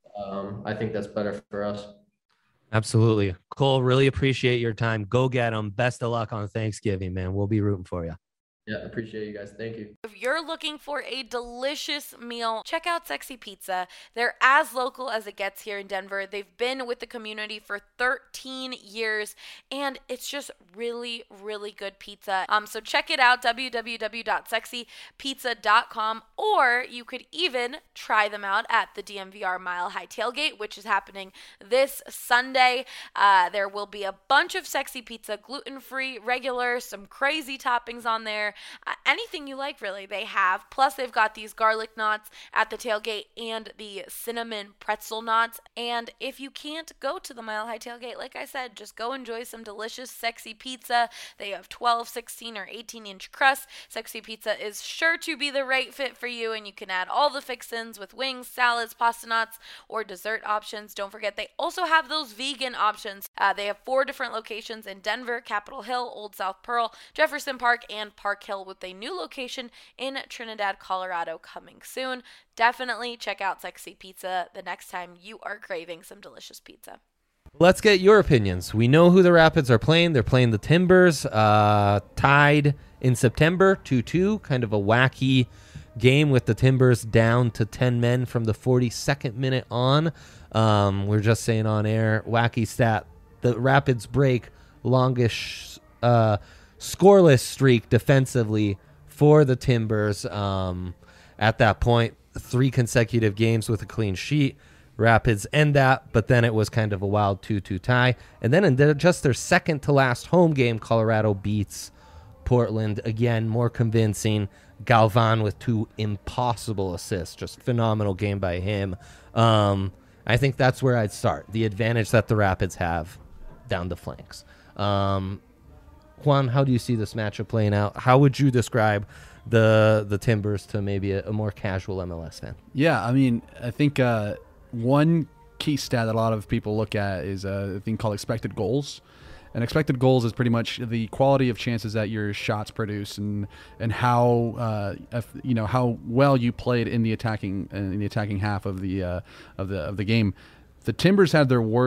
um, I think that's better for us. Absolutely. Cole, really appreciate your time. Go get them. Best of luck on Thanksgiving, man. We'll be rooting for you. Yeah, appreciate you guys. Thank you. If you're looking for a delicious meal, check out Sexy Pizza. They're as local as it gets here in Denver. They've been with the community for thirteen years, and it's just really, really good pizza. Um, so check it out, w w w dot sexy pizza dot com, or you could even try them out at the D M V R Mile High Tailgate, which is happening this Sunday. Uh, there will be a bunch of Sexy Pizza, gluten-free, regular, some crazy toppings on there. Uh, anything you like, really, they have. Plus, they've got these garlic knots at the tailgate and the cinnamon pretzel knots. And if you can't go to the Mile High Tailgate, like I said, just go enjoy some delicious Sexy Pizza. They have twelve, sixteen, or eighteen inch crusts. Sexy Pizza is sure to be the right fit for you, and you can add all the fixins with wings, salads, pasta knots, or dessert options. Don't forget, they also have those vegan options. Uh, they have four different locations in Denver, Capitol Hill, Old South Pearl, Jefferson Park, and Park Hill, with a new location in Trinidad, Colorado coming soon. Definitely check out Sexy Pizza the next time you are craving some delicious pizza. Let's get your opinions. We know who the Rapids are playing. They're playing the Timbers, uh, tied in September two two. Kind of a wacky game with the Timbers down to ten men from the forty-second minute on. Um, we're just saying on air, wacky stat. The Rapids break longest uh, scoreless streak defensively for the Timbers. Um, at that point, three consecutive games with a clean sheet. Rapids end that, but then it was kind of a wild two two tie. And then in their, just their second to last home game, Colorado beats Portland. Again, more convincing. Galvan with two impossible assists. Just phenomenal game by him. Um, I think that's where I'd start. The advantage that the Rapids have down the flanks. Um, Juan, how do you see this matchup playing out? How would you describe the the Timbers to maybe a, a more casual M L S fan? Yeah, I mean, I think uh, one key stat that a lot of people look at is a thing called expected goals. And expected goals is pretty much the quality of chances that your shots produce, and and how uh, if, you know how well you played in the attacking in the attacking half of the uh, of the of the game. The Timbers had their worst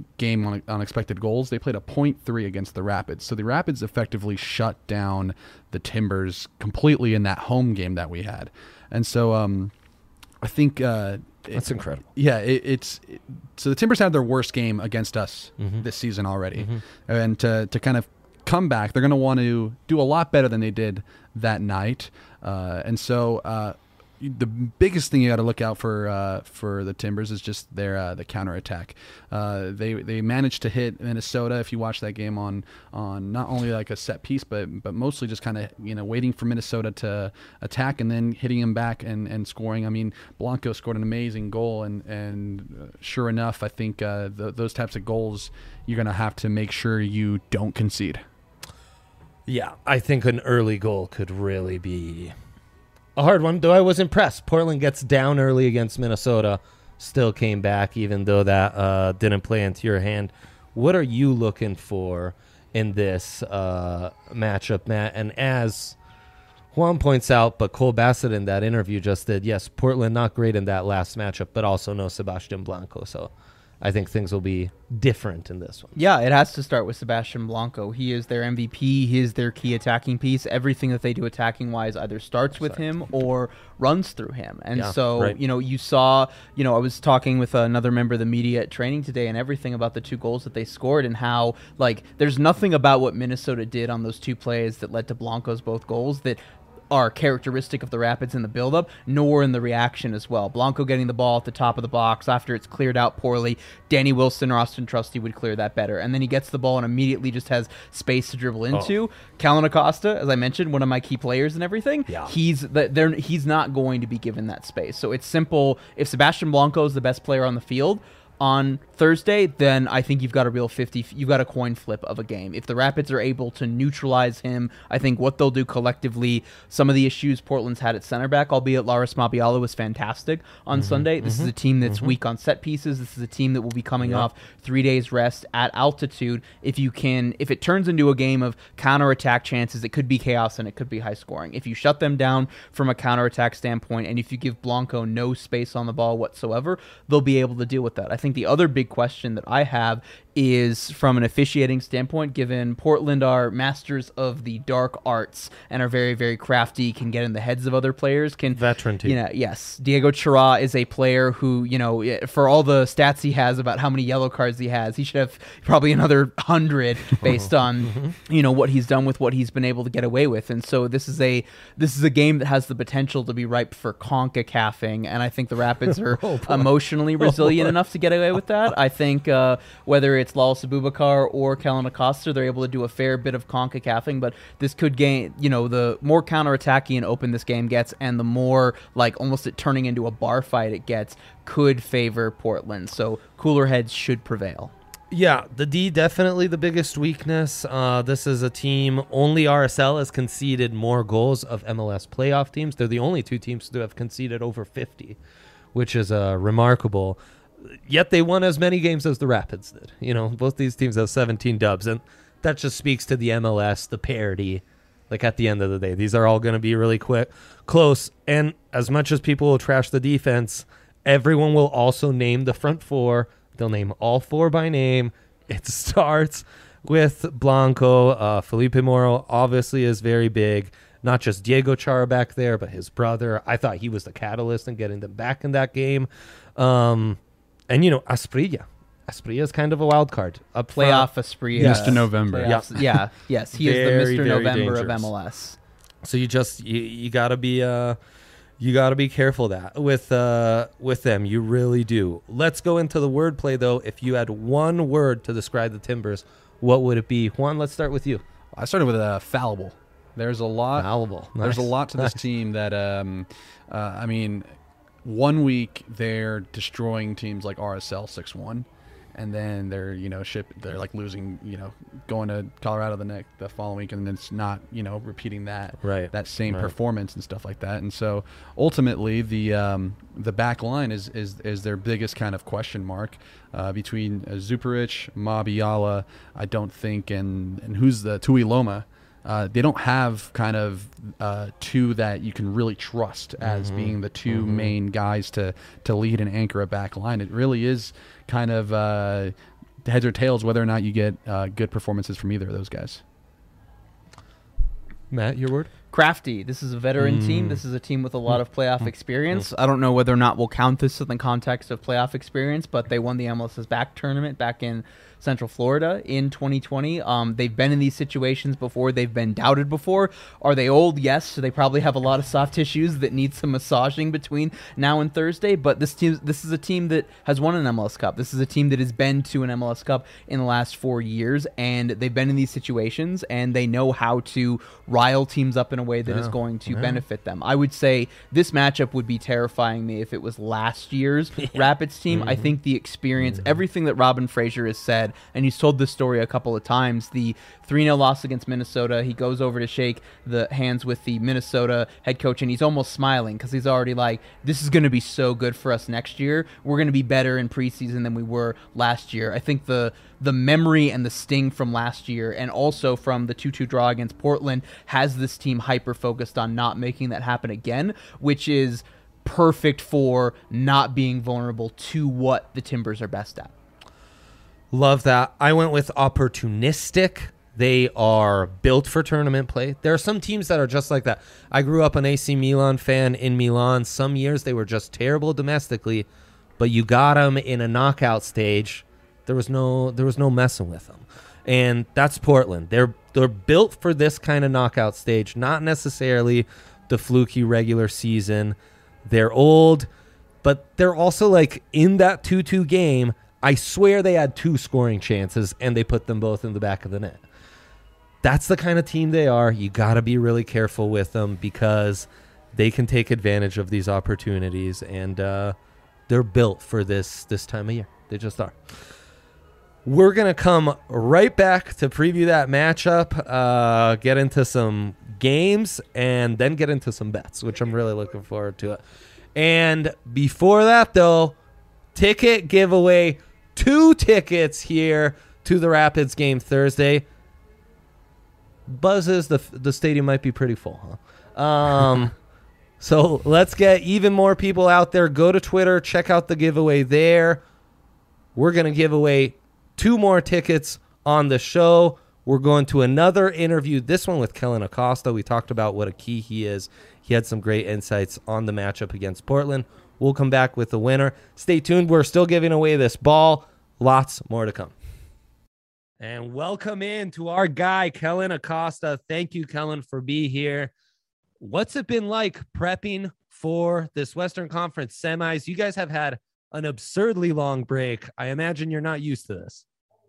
game on, on expected goals. They played a point three against the Rapids. So the Rapids effectively shut down the Timbers completely in that home game that we had. And so um, I think uh, that's it, incredible. Yeah, it, it's it, so the Timbers had their worst game against us mm-hmm. this season already, mm-hmm. and to to kind of come back, they're going to want to do a lot better than they did that night. Uh, and so uh, the biggest thing you got to look out for uh, for the Timbers is just their uh, the counterattack. Uh, they they managed to hit Minnesota. If you watch that game on on not only like a set piece, but but mostly just kind of you know waiting for Minnesota to attack and then hitting them back and, and scoring. I mean, Blanco scored an amazing goal, and and uh, sure enough, I think uh, th- those types of goals you're gonna have to make sure you don't concede. Yeah, I think an early goal could really be a hard one, though I was impressed. Portland gets down early against Minnesota, still came back, even though that uh, didn't play into your hand. What are you looking for in this uh, matchup, Matt? And as Juan points out, but Cole Bassett in that interview just did, yes, Portland not great in that last matchup, but also no Sebastian Blanco, so I think things will be different in this one. Yeah, it has to start with Sebastian Blanco. He is their M V P. He is their key attacking piece. Everything that they do attacking-wise either starts with him or runs through him. And yeah, so, right. you know, you saw, you know, I was talking with another member of the media at training today and everything about the two goals that they scored and how, like, there's nothing about what Minnesota did on those two plays that led to Blanco's both goals that are characteristic of the Rapids in the buildup, nor in the reaction as well. Blanco getting the ball at the top of the box after it's cleared out poorly. Danny Wilson or Austin Trusty would clear that better. And then he gets the ball and immediately just has space to dribble into. Oh. Callan Acosta, as I mentioned, one of my key players and everything, yeah. he's they're, he's not going to be given that space. So it's simple. If Sebastian Blanco is the best player on the field on Thursday, then I think you've got a real fifty, you've got a coin flip of a game. If the Rapids are able to neutralize him, I think what they'll do collectively, some of the issues Portland's had at center back, albeit Laris Mabiala was fantastic on mm-hmm, Sunday. This mm-hmm, is a team that's mm-hmm. weak on set pieces. This is a team that will be coming yep. off three days rest at altitude. If you can, if it turns into a game of counterattack chances, it could be chaos and it could be high scoring. If you shut them down from a counterattack standpoint, and if you give Blanco no space on the ball whatsoever, they'll be able to deal with that. I think the other big question that I have is from an officiating standpoint, given Portland are masters of the dark arts and are very, very crafty, can get in the heads of other players. Can Veteran team. You know, yes. Diego Chara is a player who, you know, for all the stats he has about how many yellow cards he has, he should have probably another hundred based on, you know, what he's done with what he's been able to get away with. And so this is a this is a game that has the potential to be ripe for CONCACAFing, and I think the Rapids are oh, emotionally resilient oh, enough to get away with that. I think uh, whether it's Lawless Abubakar or Callan Acosta, they're able to do a fair bit of CONCACAFing, but this could gain, you know, the more counterattacking and open this game gets and the more like almost it turning into a bar fight it gets could favor Portland. So cooler heads should prevail. Yeah, the D definitely the biggest weakness. Uh, this is a team, only R S L has conceded more goals of M L S playoff teams. They're the only two teams to have conceded over fifty, which is uh, remarkable. Yet they won as many games as the Rapids did. You know, both these teams have seventeen dubs, and that just speaks to the M L S, the parity. Like at the end of the day, these are all going to be really quick, close. And as much as people will trash the defense, everyone will also name the front four. They'll name all four by name. It starts with Blanco. Uh, Felipe Moro obviously is very big. Not just Diego Chara back there, but his brother. I thought he was the catalyst in getting them back in that game. Um, and, you know, Asprilla. Asprilla is kind of a wild card. A playoff Asprilla. Mister November. Yeah. yeah, yes. He very, is the Mister November dangerous. of M L S. So you just, you, you got to be... Uh, You got to be careful that with uh, with them. You really do. Let's go into the wordplay, though. If you had one word to describe the Timbers, what would it be? Juan, let's start with you. I started with uh, fallible. There's a lot. Fallible. Nice. There's a lot to this nice. team that, um, uh, I mean, one week they're destroying teams like R S L six one. And then they're, you know, ship. They're like losing, you know, going to Colorado the next the following week, and then it's not, you know, repeating that right. that same right. performance and stuff like that. And so ultimately, the um, the back line is is is their biggest kind of question mark uh, between uh, Zuparic, Mabiala, I don't think, and and who's the Tui Loma. Uh, they don't have kind of uh, two that you can really trust as mm-hmm. being the two mm-hmm. main guys to to lead and anchor a back line. It really is kind of uh, heads or tails whether or not you get uh, good performances from either of those guys. Matt, your word? Crafty. This is a veteran Mm. team. This is a team with a lot of playoff experience. I don't know whether or not we'll count this in the context of playoff experience, but they won the M L S's back tournament back in Central Florida in twenty twenty. Um, they've been in these situations before. They've been doubted before. Are they old? Yes. So they probably have a lot of soft tissues that need some massaging between now and Thursday. But this team, this is a team that has won an M L S Cup. This is a team that has been to an M L S Cup in the last four years, and they've been in these situations, and they know how to rile teams up in a way that Yeah. is going to Yeah. benefit them. I would say this matchup would be terrifying me if it was last year's Rapids team. I think the experience, everything that Robin Fraser has said, and he's told this story a couple of times, the three nil loss against Minnesota, he goes over to shake the hands with the Minnesota head coach, and he's almost smiling because he's already like, this is going to be so good for us next year. We're going to be better in preseason than we were last year. I think the the memory and the sting from last year, and also from the two two draw against Portland, has this team hyper-focused on not making that happen again, which is perfect for not being vulnerable to what the Timbers are best at. Love that. I went with opportunistic. They are built for tournament play. There are some teams that are just like that. I grew up an A C Milan fan in Milan. Some years they were just terrible domestically, but you got them in a knockout stage. There was no there was no messing with them. And that's Portland. They're they're built for this kind of knockout stage, not necessarily the fluky regular season. They're old, but they're also like in that two two game, I swear they had two scoring chances and they put them both in the back of the net. That's the kind of team they are. You got to be really careful with them because they can take advantage of these opportunities, and uh, they're built for this this time of year. They just are. We're going to come right back to preview that matchup, uh, get into some games, and then get into some bets, which I'm really looking forward to it. And before that, though, ticket giveaway. Two tickets here to the Rapids game Thursday. Buzzes, the the stadium might be pretty full, huh? Um, so let's get even more people out there. Go to Twitter, check out the giveaway there. We're going to give away two more tickets on the show. We're going to another interview, this one with Kellyn Acosta. We talked about what a key he is. He had some great insights on the matchup against Portland. We'll come back with the winner. Stay tuned. We're still giving away this ball. Lots more to come. And welcome in to our guy, Kellyn Acosta. Thank you, Kellyn, for being here. What's it been like prepping for this Western Conference semis? You guys have had an absurdly long break. I imagine you're not used to this.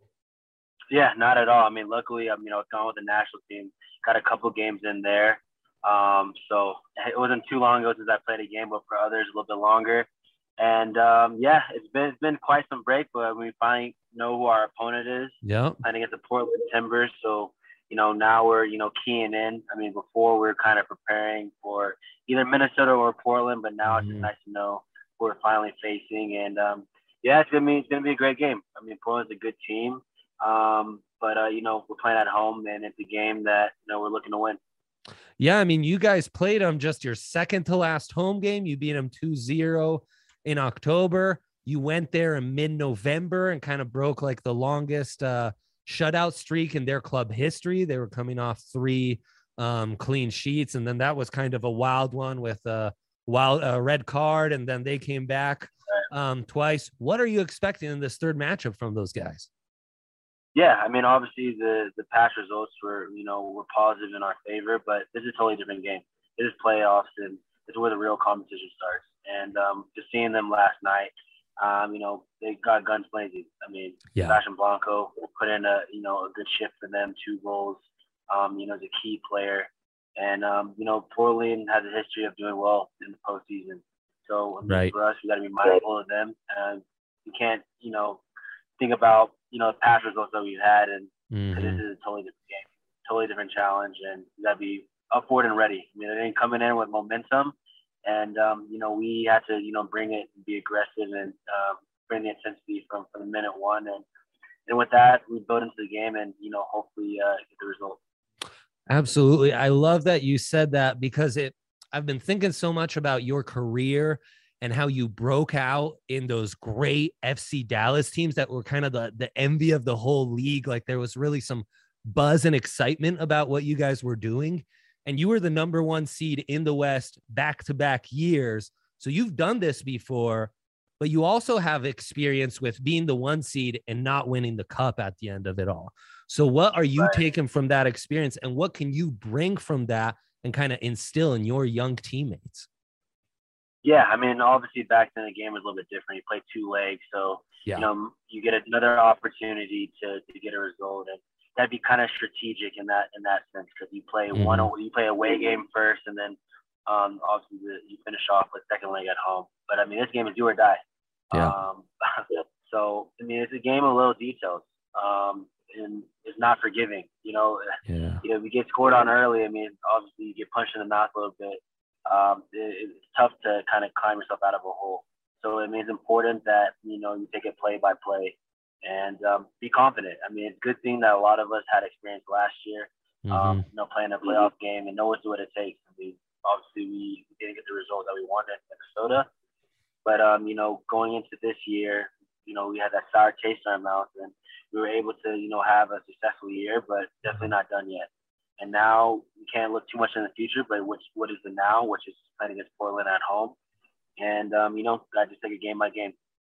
Yeah, not at all. I mean, luckily, I'm, you know, gone with the national team. Got a couple games in there. Um, so it wasn't too long ago since I played a game, but for others, a little bit longer. And um, yeah, it's been it's been quite some break, but we finally know who our opponent is. Yeah, playing against the Portland Timbers. So you know now we're you know keying in. I mean, before we were kind of preparing for either Minnesota or Portland, but now mm-hmm. it's just nice to know who we're finally facing. And um, yeah, it's gonna be it's gonna be a great game. I mean, Portland's a good team, um, but uh, you know we're playing at home, and it's a game that you know we're looking to win. Yeah, I mean, you guys played them just your second to last home game. You beat them two zero in October. You went there in mid-November and kind of broke like the longest uh, shutout streak in their club history. They were coming off three um, clean sheets, and then that was kind of a wild one with a wild uh, red card, and then they came back um, twice. What are you expecting in this third matchup from those guys? Yeah, I mean, obviously the the past results were, you know, were positive in our favor, but this is a totally different game. It is playoffs, and it's where the real competition starts. And um, just seeing them last night, um, you know, they got guns blazing. I mean, yeah. Sebastian Blanco put in a, you know, a good shift for them, two goals, um, you know, as a key player. And, um, you know, Portland has a history of doing well in the postseason. So I mean, right. for us, we got to be mindful of them. And you can't, you know, think about, you know, the past results that we've had. And mm-hmm. this is a totally different game, totally different challenge. And you got to be up for it and ready. I mean, they didn't coming in with momentum. And, um, you know, we had to, you know, bring it and be aggressive and um, bring the intensity from, from minute one. And, and with that, we build into the game and, you know, hopefully uh, get the result. Absolutely. I love that you said that because it, I've been thinking so much about your career and how you broke out in those great F C Dallas teams that were kind of the, the envy of the whole league. Like there was really some buzz and excitement about what you guys were doing. And you were the number one seed in the West back-to-back years. So you've done this before, but you also have experience with being the one seed and not winning the cup at the end of it all. So what are you taking from that experience, and what can you bring from that and kind of instill in your young teammates? Yeah, I mean, obviously back then the game was a little bit different. You played two legs, so yeah. you know you get another opportunity to, to get a result, and that'd be kind of strategic in that in that sense, because you play mm-hmm. one you play a away game first, and then um, obviously the, you finish off with second leg at home. But I mean, this game is do or die. Yeah. Um, so I mean, it's a game of little details, um, and it's not forgiving. You know, yeah. you know, if you get scored on early, I mean, obviously you get punched in the mouth a little bit. Um, it, it's tough to kind of climb yourself out of a hole. So I mean, it's important that you know you take it play by play and um, be confident. I mean, it's a good thing that a lot of us had experience last year. Mm-hmm. Um, you know, playing a playoff game and know what it takes. I mean, obviously we didn't get the result that we wanted in Minnesota, but um, you know, going into this year, you know, we had that sour taste in our mouth, and we were able to, you know, have a successful year, but definitely not done yet. And now we can't look too much in the future, but which what is the now, which is playing against Portland at home, and um, you know, I just take it game by game.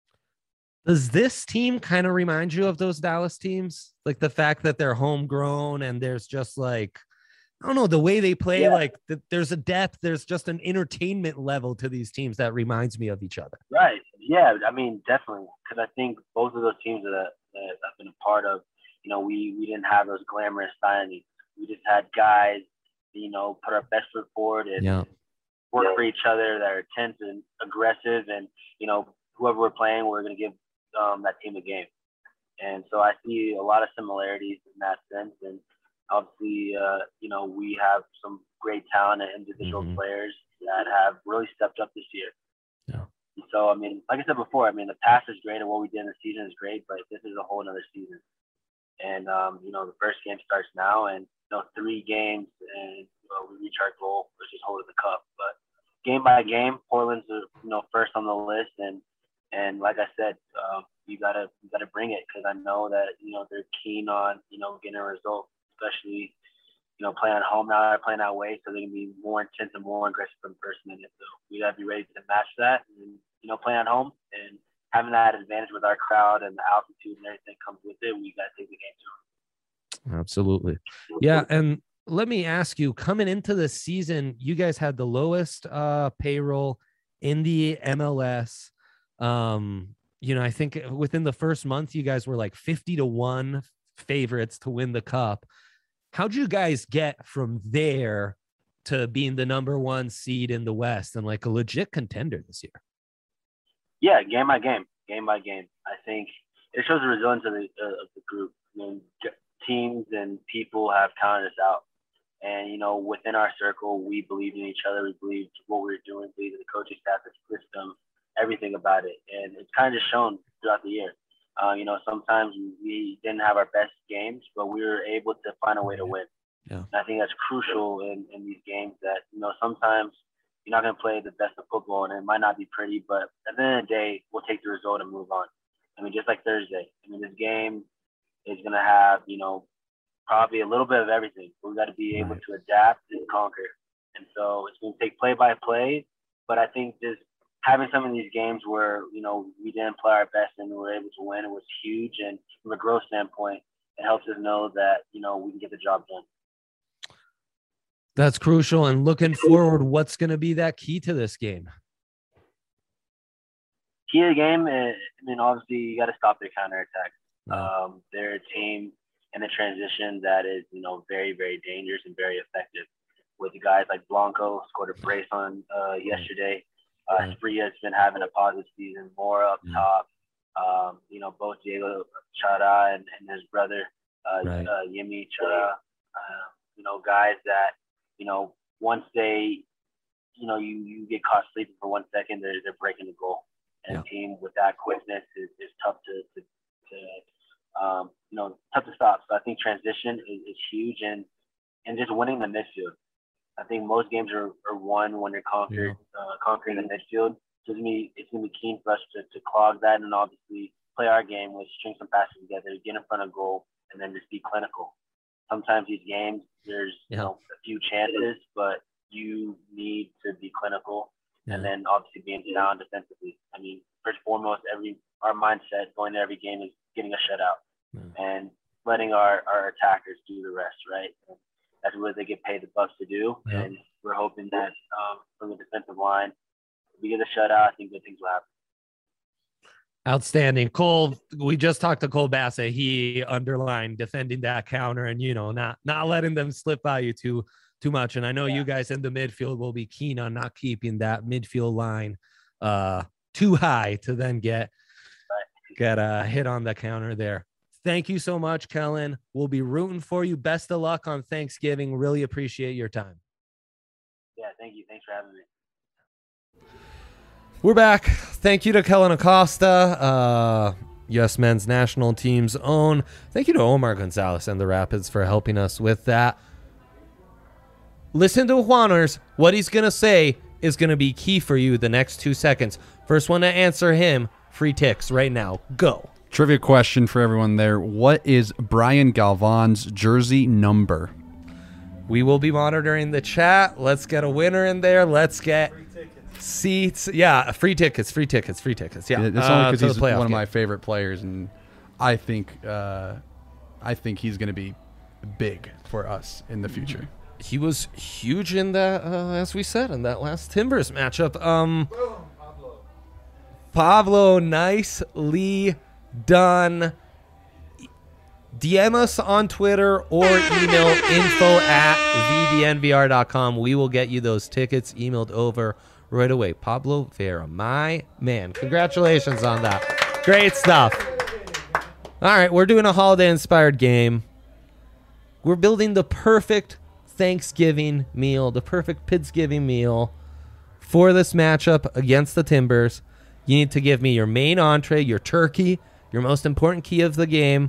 Does this team kind of remind you of those Dallas teams? Like the fact that they're homegrown and there's just like, I don't know, the way they play, yeah. like the, there's a depth, there's just an entertainment level to these teams that reminds me of each other. Right. Yeah. I mean, definitely. Because I think both of those teams that, that I've been a part of, you know, we, we didn't have those glamorous signings. We just had guys, you know, put our best foot forward and yeah. work for each other, that are intense and aggressive. And, you know, whoever we're playing, we're going to give um, that team a game. And so I see a lot of similarities in that sense. And obviously, uh, you know, we have some great talent and individual mm-hmm. players that have really stepped up this year. Yeah. And so, I mean, like I said before, I mean, the past is great and what we did in the season is great, but this is a whole other season. And, um, you know, the first game starts now, and, you know, three games and, you know, we reach our goal, which is holding the cup. But game by game, Portland's, uh, you know, first on the list. And, and like I said, um, you gotta, you gotta bring it, because I know that, you know, they're keen on, you know, getting a result, especially, you know, playing at home now, they're playing away, so they're going to be more intense and more aggressive in first minute. So we got to be ready to match that, and, you know, playing at home and having that advantage with our crowd and the altitude and everything comes with it, we got to take the game to them. Absolutely. Yeah, and let me ask you, coming into the season, you guys had the lowest uh, payroll in the M L S. Um, you know, I think within the first month, you guys were like fifty to one favorites to win the cup. How'd you guys get from there to being the number one seed in the West and like a legit contender this year? Yeah, game by game, game by game. I think it shows the resilience of the, uh, of the group. I mean, teams and people have counted us out. And, you know, within our circle, we believed in each other. We believed what we were doing, believed in the coaching staff, the system, everything about it. And it's kind of just shown throughout the year. Uh, you know, sometimes we didn't have our best games, but we were able to find a way to win. Yeah. And I think that's crucial in, in these games that, you know, sometimes you're not going to play the best of football and it might not be pretty, but at the end of the day, we'll take the result and move on. I mean, just like Thursday. I mean, this game is going to have, you know, probably a little bit of everything. But we got to be able to adapt and conquer. And so it's going to take play by play, but I think just having some of these games where, you know, we didn't play our best and we were able to win, it was huge. And from a growth standpoint, it helps us know that, you know, we can get the job done. That's crucial. And looking forward, what's going to be that key to this game? Key to the game, is, I mean, obviously you got to stop their counterattack. Wow. Um, they're a team in the transition that is, you know, very, very dangerous and very effective. With the guys like Blanco, scored a brace on uh, yesterday. Uh, Spria's been having a positive season, more up top. Um, you know, both Diego Chara and, and his brother, uh, right. uh, Yemi Chara, uh, you know, guys that, you know, once they, you know, you, you get caught sleeping for one second, they're, they're breaking the goal. And yeah. a team with that quickness is, is tough to, to, to um, you know, tough to stop. So I think transition is, is huge, and, and just winning the midfield. I think most games are, are won when you're conquered, yeah. uh, conquering the midfield. So it's gonna be it's gonna be keen for us to, to clog that and obviously play our game, which string some passes together, get in front of goal, and then just be clinical. Sometimes these games, there's Yeah. you know a few chances, but you need to be clinical, Yeah. and then obviously being sound defensively. I mean, first and foremost, every our mindset going to every game is getting a shutout Yeah. and letting our, our attackers do the rest, right? And that's what they get paid the bucks to do, Yeah. and we're hoping that um, from the defensive line, if we get a shutout, I think good things will happen. Outstanding. Cole, we just talked to Cole Bassett. He underlined defending that counter and, you know, not not letting them slip by you too too much. And I know Yeah. you guys in the midfield will be keen on not keeping that midfield line uh, too high to then get, get a hit on the counter there. Thank you so much, Kellen. We'll be rooting for you. Best of luck on Thanksgiving. Really appreciate your time. Yeah, thank you. Thanks for having me. We're back. Thank you to Kellen Acosta, uh, U S men's national team's own. Thank you to Omar Gonzalez and the Rapids for helping us with that. Listen to Juaners. What he's going to say is going to be key for you the next two seconds. First one to answer him, free ticks right now. Go. Trivia question for everyone there. What is Brian Galvan's jersey number? We will be monitoring the chat. Let's get a winner in there. Let's get seats. Yeah, free tickets, free tickets, free tickets. Yeah, It's uh, only because to the he's playoff one of game. my favorite players, and I think uh, I think he's going to be big for us in the future. He was huge in that, uh, as we said, in that last Timbers matchup. Um, Pablo, nicely done. D M us on Twitter or email info at v d n v r dot com. We will get you those tickets emailed over right away. Pablo Vera, my man. Congratulations on that. Great stuff. All right, we're doing a holiday-inspired game. We're building the perfect Thanksgiving meal, the perfect Pidsgiving meal for this matchup against the Timbers. You need to give me your main entree, your turkey, your most important key of the game,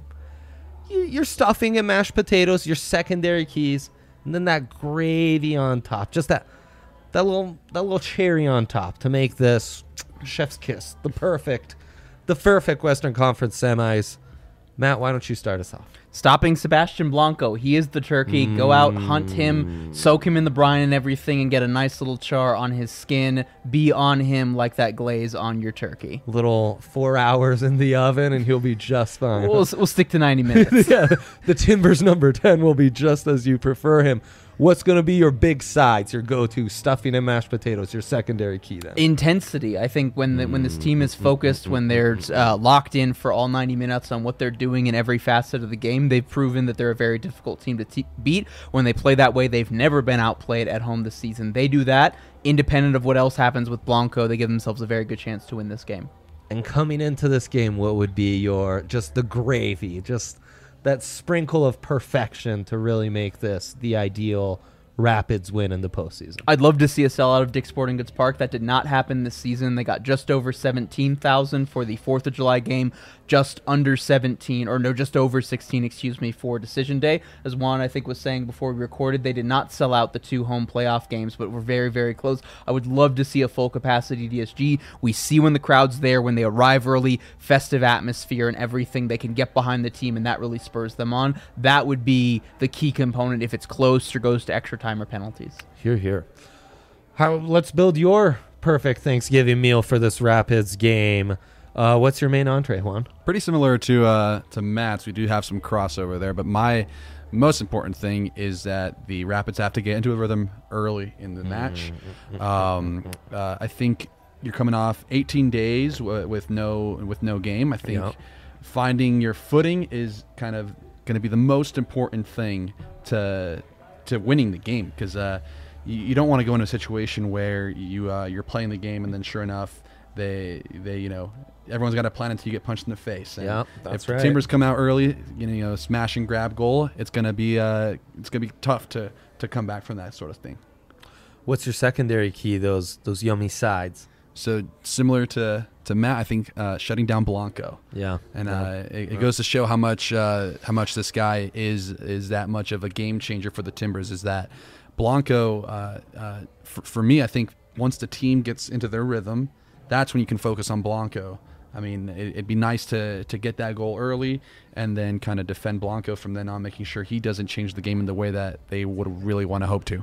your stuffing and mashed potatoes, your secondary keys, and then that gravy on top. Just that that little that little cherry on top to make this chef's kiss, the perfect, the perfect Western Conference semis. Matt, why don't you start us off? Stopping Sebastian Blanco. He is the turkey. Mm. Go out, hunt him, soak him in the brine and everything, and get a nice little char on his skin. Be on him like that glaze on your turkey. Little four hours in the oven, and he'll be just fine. We'll, we'll stick to ninety minutes. Yeah, the Timbers number ten will be just as you prefer him. What's going to be your big sides, your go-to stuffing and mashed potatoes, your secondary key then? Intensity. I think when the, when this team is focused, when they're uh, locked in for all ninety minutes on what they're doing in every facet of the game, they've proven that they're a very difficult team to te- beat. When they play that way, they've never been outplayed at home this season. They do that independent of what else happens with Blanco. They give themselves a very good chance to win this game. And coming into this game, what would be your, just the gravy, just that sprinkle of perfection to really make this the ideal Rapids win in the postseason? I'd love to see a sellout of Dick's Sporting Goods Park. That did not happen this season. They got just over seventeen thousand for the fourth of July game, just under seventeen, or no, just over sixteen, excuse me, for Decision Day. As Juan, I think, was saying before we recorded, they did not sell out the two home playoff games, but were very, very close. I would love to see a full capacity D S G. We see when the crowd's there, when they arrive early, festive atmosphere and everything, they can get behind the team, and that really spurs them on. That would be the key component if it's close or goes to extra time or penalties. Here, here. How? Let's build your perfect Thanksgiving meal for this Rapids game. Uh, what's your main entree, Juan? Pretty similar to uh, to Matt's. We do have some crossover there, but my most important thing is that the Rapids have to get into a rhythm early in the match. Um, uh, I think you're coming off eighteen days w- with no with no game. I think Yep. finding your footing is kind of going to be the most important thing to to winning the game, because uh, you, you don't want to go into a situation where you uh, you're playing the game and then sure enough they they you know everyone's got a plan until you get punched in the face. And yeah, that's if right. the Timbers come out early, you know, you know, smash and grab goal, it's gonna be uh, it's gonna be tough to to come back from that sort of thing. What's your secondary key? Those those yummy sides. So similar to, to Matt, I think uh, shutting down Blanco. Yeah, and yeah. Uh, it, it goes to show how much uh, how much this guy is is that much of a game changer for the Timbers. Is that Blanco? Uh, uh, for, for me, I think once the team gets into their rhythm, that's when you can focus on Blanco. I mean, it, it'd be nice to to get that goal early and then kind of defend Blanco from then on, making sure he doesn't change the game in the way that they would really want to hope to.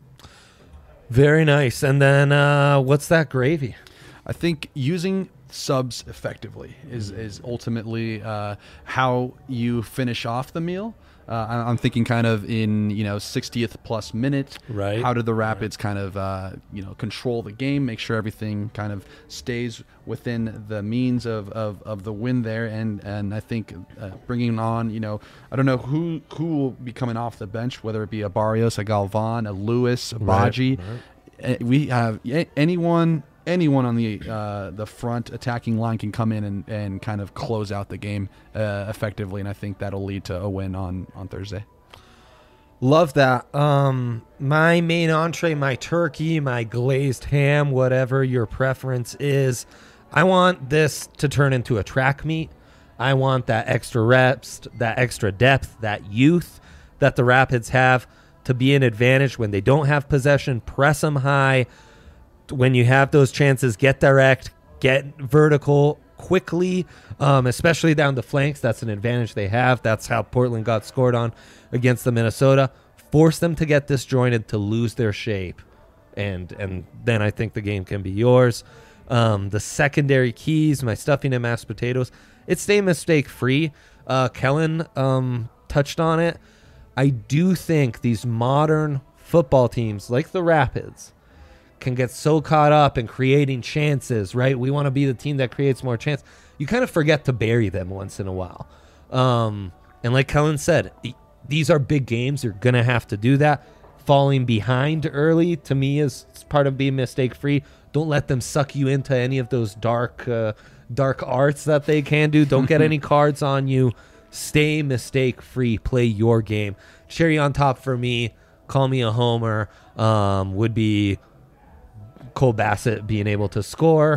Very nice. And then uh, what's that gravy? I think using subs effectively is, is ultimately uh, how you finish off the meal. Uh, I- I'm thinking kind of in, you know, sixtieth plus minute. Right. How do the Rapids kind of, uh, you know, control the game, make sure everything kind of stays within the means of, of, of the win there. And, and I think uh, bringing on, you know, I don't know who who will be coming off the bench, whether it be a Barrios, a Galvan, a Lewis, a Baji. Right. Uh, We have a- anyone... Anyone on the uh, the front attacking line can come in and, and kind of close out the game uh, effectively, and I think that'll lead to a win on, on Thursday. Love that. Um, my main entree, my turkey, my glazed ham, whatever your preference is, I want this to turn into a track meet. I want that extra reps, that extra depth, that youth that the Rapids have to be an advantage when they don't have possession. Press them high. When you have those chances, get direct, get vertical quickly, um, especially down the flanks. That's an advantage they have. That's how Portland got scored on against the Minnesota. Force them to get disjointed, to lose their shape, and and then I think the game can be yours. Um, the secondary keys, my stuffing and mashed potatoes, it's stay mistake-free. Uh, Kellen um, touched on it. I do think these modern football teams, like the Rapids, can get so caught up in creating chances, right? We want to be the team that creates more chance. You kind of forget to bury them once in a while. Um, and like Kellen said, these are big games. You're going to have to do that. Falling behind early, to me, is part of being mistake-free. Don't let them suck you into any of those dark uh, dark arts that they can do. Don't get any cards on you. Stay mistake-free. Play your game. Cherry on top for me, call me a homer, um, would be Cole Bassett being able to score,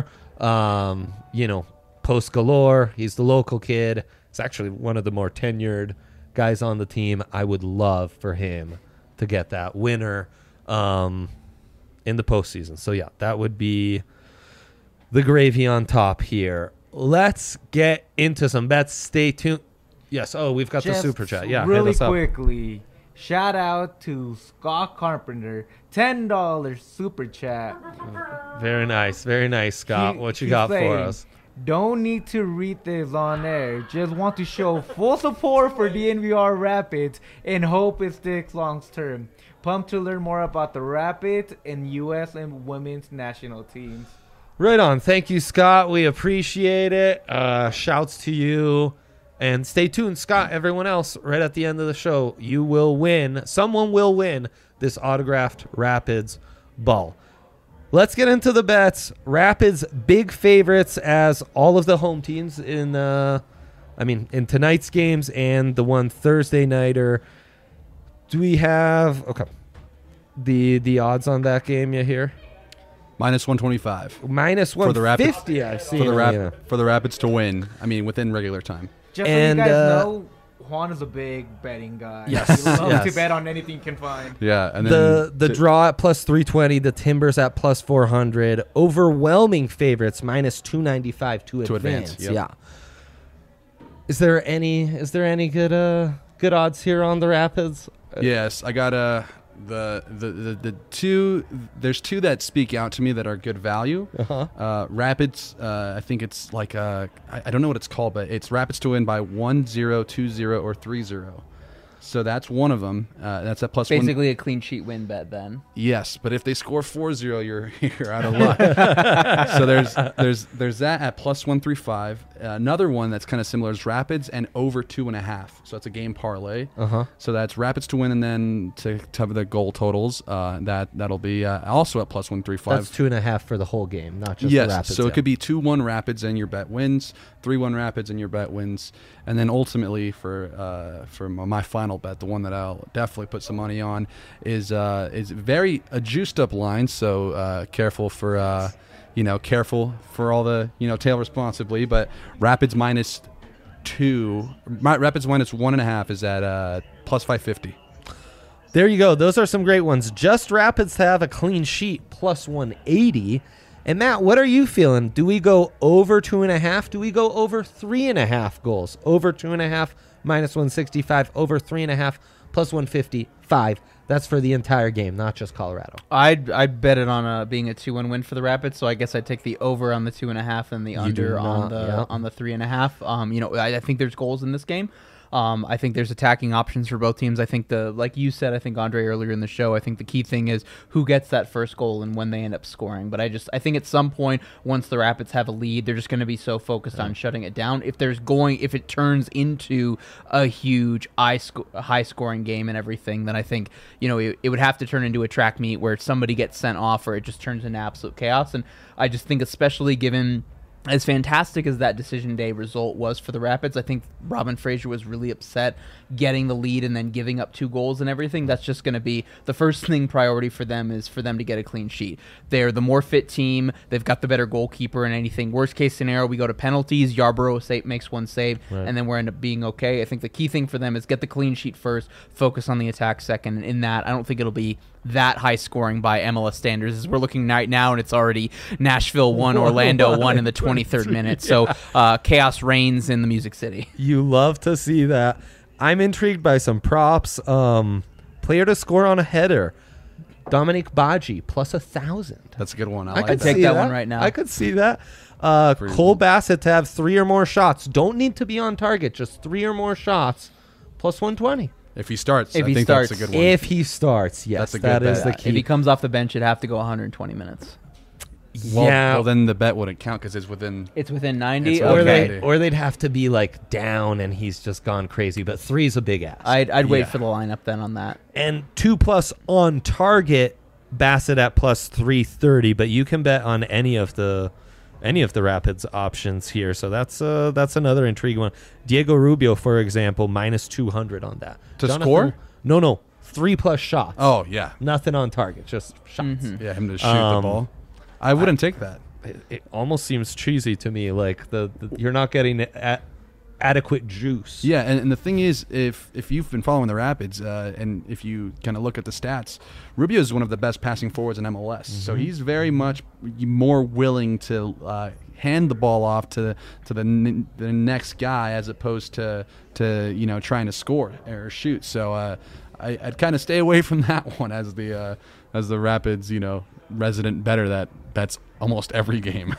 um, you know, post galore. He's the local kid. He's actually one of the more tenured guys on the team. I would love for him to get that winner um, in the postseason. So, yeah, that would be the gravy on top here. Let's get into some bets. Stay tuned. Yes, oh, we've got Just the super chat. Yeah, really hit us up. quickly. Shout out to Scott Carpenter, ten dollars super chat. Very nice, very nice, Scott. He- what you he's got saying, for us? Don't need to read this on air. Just want to show full support for the N V R Rapids and hope it sticks long term. Pumped to learn more about the Rapids and U S and women's national teams. Right on. Thank you, Scott. We appreciate it. Uh, shouts to you. And stay tuned, Scott, everyone else, right at the end of the show, you will win. Someone will win this autographed Rapids ball. Let's get into the bets. Rapids big favorites as all of the home teams in, uh, I mean, in tonight's games and the one Thursday nighter. Do we have okay the the odds on that game you hear? Minus one twenty-five. Minus for the Rapids. one fifty, I see. For the, Rap- yeah. for the Rapids to win. I mean, within regular time. Just And, so you guys uh, know, Juan is a big betting guy. Yes, He loves yes. to bet on anything he can find. Yeah, and then the the to- draw at plus three twenty, the Timbers at plus four hundred, overwhelming favorites minus two ninety-five to, To advance. advance, yep. Yeah. Is there any is there any good uh good odds here on the Rapids? Uh, Yes, I got uh, the, the the the two. There's two that speak out to me that are good value. Uh-huh. Uh, Rapids. Uh, I think it's like uh, I, I don't know what it's called, but it's Rapids to win by one zero, two zero, or three zero. So that's one of them. Uh, that's at plus one. Basically a clean sheet win bet then. Yes, but if they score four zero, you're you're out of luck. So there's there's there's that at plus one three five. Uh, another one that's kind of similar is Rapids and over two and a half. So it's a game parlay. Uh-huh. So that's Rapids to win and then to, to have the goal totals. Uh, that that'll be uh, also at plus one three five. That's two and a half for the whole game, not just yes, the Rapids. so yeah. it could be two one Rapids and your bet wins, three one Rapids and your bet wins, and then ultimately for uh, for my final bet, the one that I'll definitely put some money on, is uh, is very a juiced up line. So uh, careful for uh, you know careful for all the you know tail responsibly. But Rapids minus two, my, Rapids minus one and a half is at uh, plus five fifty. There you go. Those are some great ones. Just Rapids to have a clean sheet plus one eighty. And Matt, what are you feeling? Do we go over two and a half? Do we go over three and a half goals? Over two and a half minus one sixty-five, over three and a half plus one fifty-five. That's for the entire game, not just Colorado. I'd I'd bet it on a, being a two one win for the Rapids, so I guess I'd take the over on the two and a half and the You under do not, on the yeah. on the three and a half. Um, you know, I, I think there's goals in this game. Um, I think there's attacking options for both teams. I think the, like you said, I think Andre earlier in the show, I think the key thing is who gets that first goal and when they end up scoring. But I just, I think at some point, once the Rapids have a lead, they're just going to be so focused yeah. on shutting it down. If there's going, if it turns into a huge high, sco- high scoring game and everything, then I think, you know, it, it would have to turn into a track meet where somebody gets sent off or it just turns into absolute chaos. And I just think, especially given as fantastic as that decision day result was for the Rapids, I think Robin Fraser was really upset getting the lead and then giving up two goals and everything. That's just going to be the first thing priority for them is for them to get a clean sheet. They're the more fit team. They've got the better goalkeeper and anything. Worst case scenario, we go to penalties. Yarborough save, makes one save, right. and then we're end up being okay. I think the key thing for them is get the clean sheet first, focus on the attack second. And in that, I don't think it'll be that high scoring by M L S standards as we're looking right now, and it's already Nashville one, Orlando one in the twenty-third minute. So uh, chaos reigns in the Music City. You love to see that. I'm intrigued by some props. Um, player to score on a header. Dominic Baji plus a thousand. That's a good one. I, I like could that. take see that, that one right now. I could see that. Uh, Cole Bassett to have three or more shots. Don't need to be on target. Just three or more shots. Plus one twenty. If he starts, If I he think starts. that's a good one. If he starts, yes, That's a good that is bet. the key. If he comes off the bench, it'd have to go one hundred twenty minutes. well, yeah. well, then the bet wouldn't count because it's within. It's within ninety. It's or, okay. they, or they'd have to be like down and he's just gone crazy. But three is a big ask. I'd, I'd wait Yeah. for the lineup then on that. And two plus on target, Bassett at plus three thirty. But you can bet on any of the any of the Rapids options here. So that's uh, that's another intriguing one. Diego Rubio, for example, minus two hundred on that. To score? No, no. Three plus shots. Oh, yeah. Nothing on target, just shots. Mm-hmm. Yeah, him to shoot Um, the ball. I wouldn't take that. It, it almost seems cheesy to me. Like the, the you're not getting a, adequate juice. Yeah, and, and the thing is, if if you've been following the Rapids, uh, and if you kind of look at the stats, Rubio is one of the best passing forwards in M L S. Mm-hmm. So he's very much more willing to uh, hand the ball off to to the n- the next guy as opposed to to you know trying to score or shoot. So uh, I, I'd kind of stay away from that one as the uh, as the Rapids you know resident bettor that bets almost every game.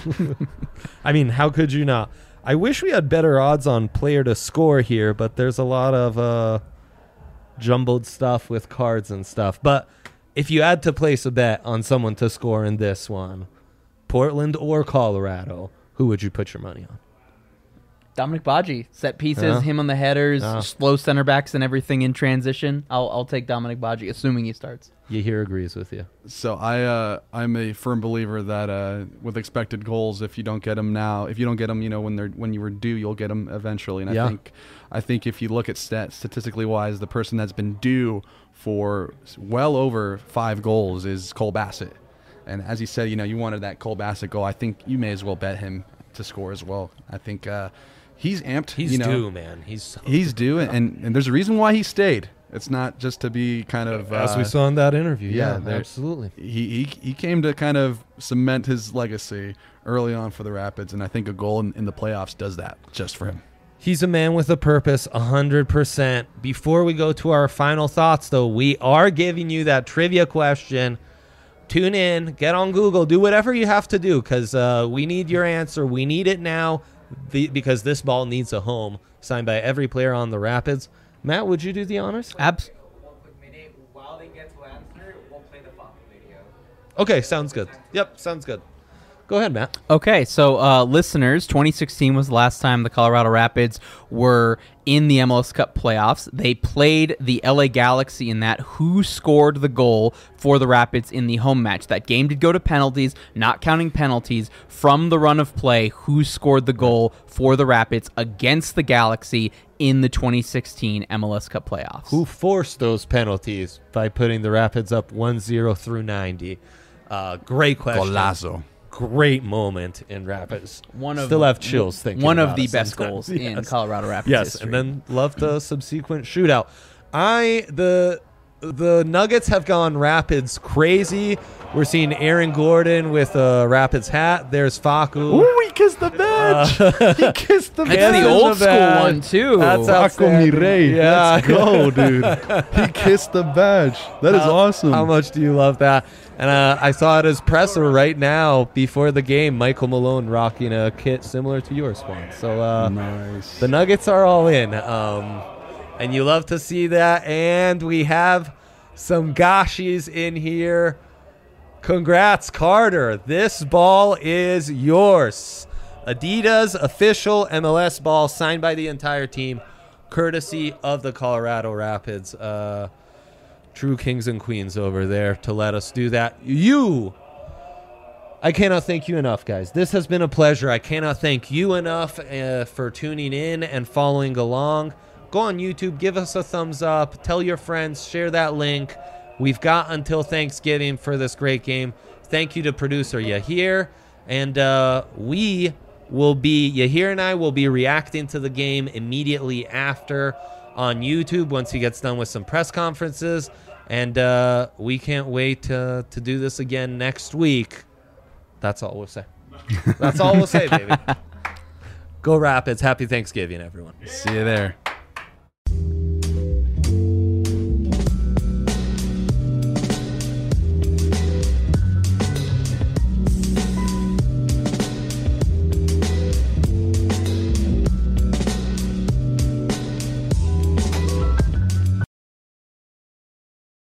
I mean, how could you not? I wish we had better odds on player to score here, but there's a lot of uh, jumbled stuff with cards and stuff. But if you had to place a bet on someone to score in this one, Portland or Colorado, who would you put your money on? Dominic Baji, set pieces, Yeah. him on the headers, Yeah. slow center backs and everything in transition. I'll I'll take Dominic Baji, assuming he starts. Yahir agrees with you. So I uh, I'm a firm believer that uh, with expected goals, if you don't get them now, if you don't get them, you know when they're when you were due, you'll get them eventually. And Yeah. I think I think if you look at stat statistically wise, the person that's been due for well over five goals is Cole Bassett. And as you said, you know you wanted that Cole Bassett goal. I think you may as well bet him to score as well. I think uh, he's amped. He's you know, due, man. He's so he's due, and and there's a reason why he stayed. It's not just to be kind of as uh, we saw in that interview. yeah, Yeah, there- absolutely. He, he he came to kind of cement his legacy early on for the Rapids, and I think a goal in, in the playoffs does that just for him. He's a man with a purpose, one hundred percent. Before we go to our final thoughts, though, we are giving you that trivia question. Tune in, get on Google, do whatever you have to do, because uh, we need your answer. We need it now the, because this ball needs a home, signed by every player on the Rapids. Matt, would you do the honors? Abs- While they get to answer, we'll play the Pop video. Okay, sounds good. Yep, sounds good. Go ahead, Matt. Okay, so uh, listeners, twenty sixteen was the last time the Colorado Rapids were in the M L S Cup playoffs. They played the L A Galaxy in that. Who scored the goal for the Rapids in the home match? That game did go to penalties, not counting penalties. From the run of play, who scored the goal for the Rapids against the Galaxy in the twenty sixteen M L S Cup playoffs? Who forced those penalties by putting the Rapids up one zero through ninety? Uh, great question. Golazo. Great moment in Rapids. One of Still have chills thinking one of about the it best sometimes. goals in Yes. Colorado Rapids Yes, history. and then love the subsequent shootout. I the the Nuggets have gone Rapids crazy. We're seeing Aaron Gordon with a Rapids hat. There's Facu. Ooh, he kissed the badge. Uh, he kissed the badge. That's the old school one, too. That's Facu outstanding. Mirey. Yeah. Let's go, dude. He kissed the badge. That is How- awesome. How much do you love that? And uh, I saw it as presser right now before the game. Michael Malone rocking a kit similar to yours, Juan. So uh, nice. the Nuggets are all in. Um, and you love to see that. And we have some Gashis in here. Congrats, Carter. This ball is yours. Adidas official M L S ball signed by the entire team, courtesy of the Colorado Rapids. Uh, true kings and queens over there to let us do that. You, I cannot thank you enough, guys. This has been a pleasure. I cannot thank you enough uh, for tuning in and following along. Go on YouTube, give us a thumbs up, tell your friends, share that link. We've got until Thanksgiving for this great game. Thank you to producer Yahir. And uh, we will be, Yahir and I will be reacting to the game immediately after on YouTube once he gets done with some press conferences. And uh, we can't wait to, to do this again next week. That's all we'll say. That's all we'll say, baby. Go Rapids. Happy Thanksgiving, everyone. See you there.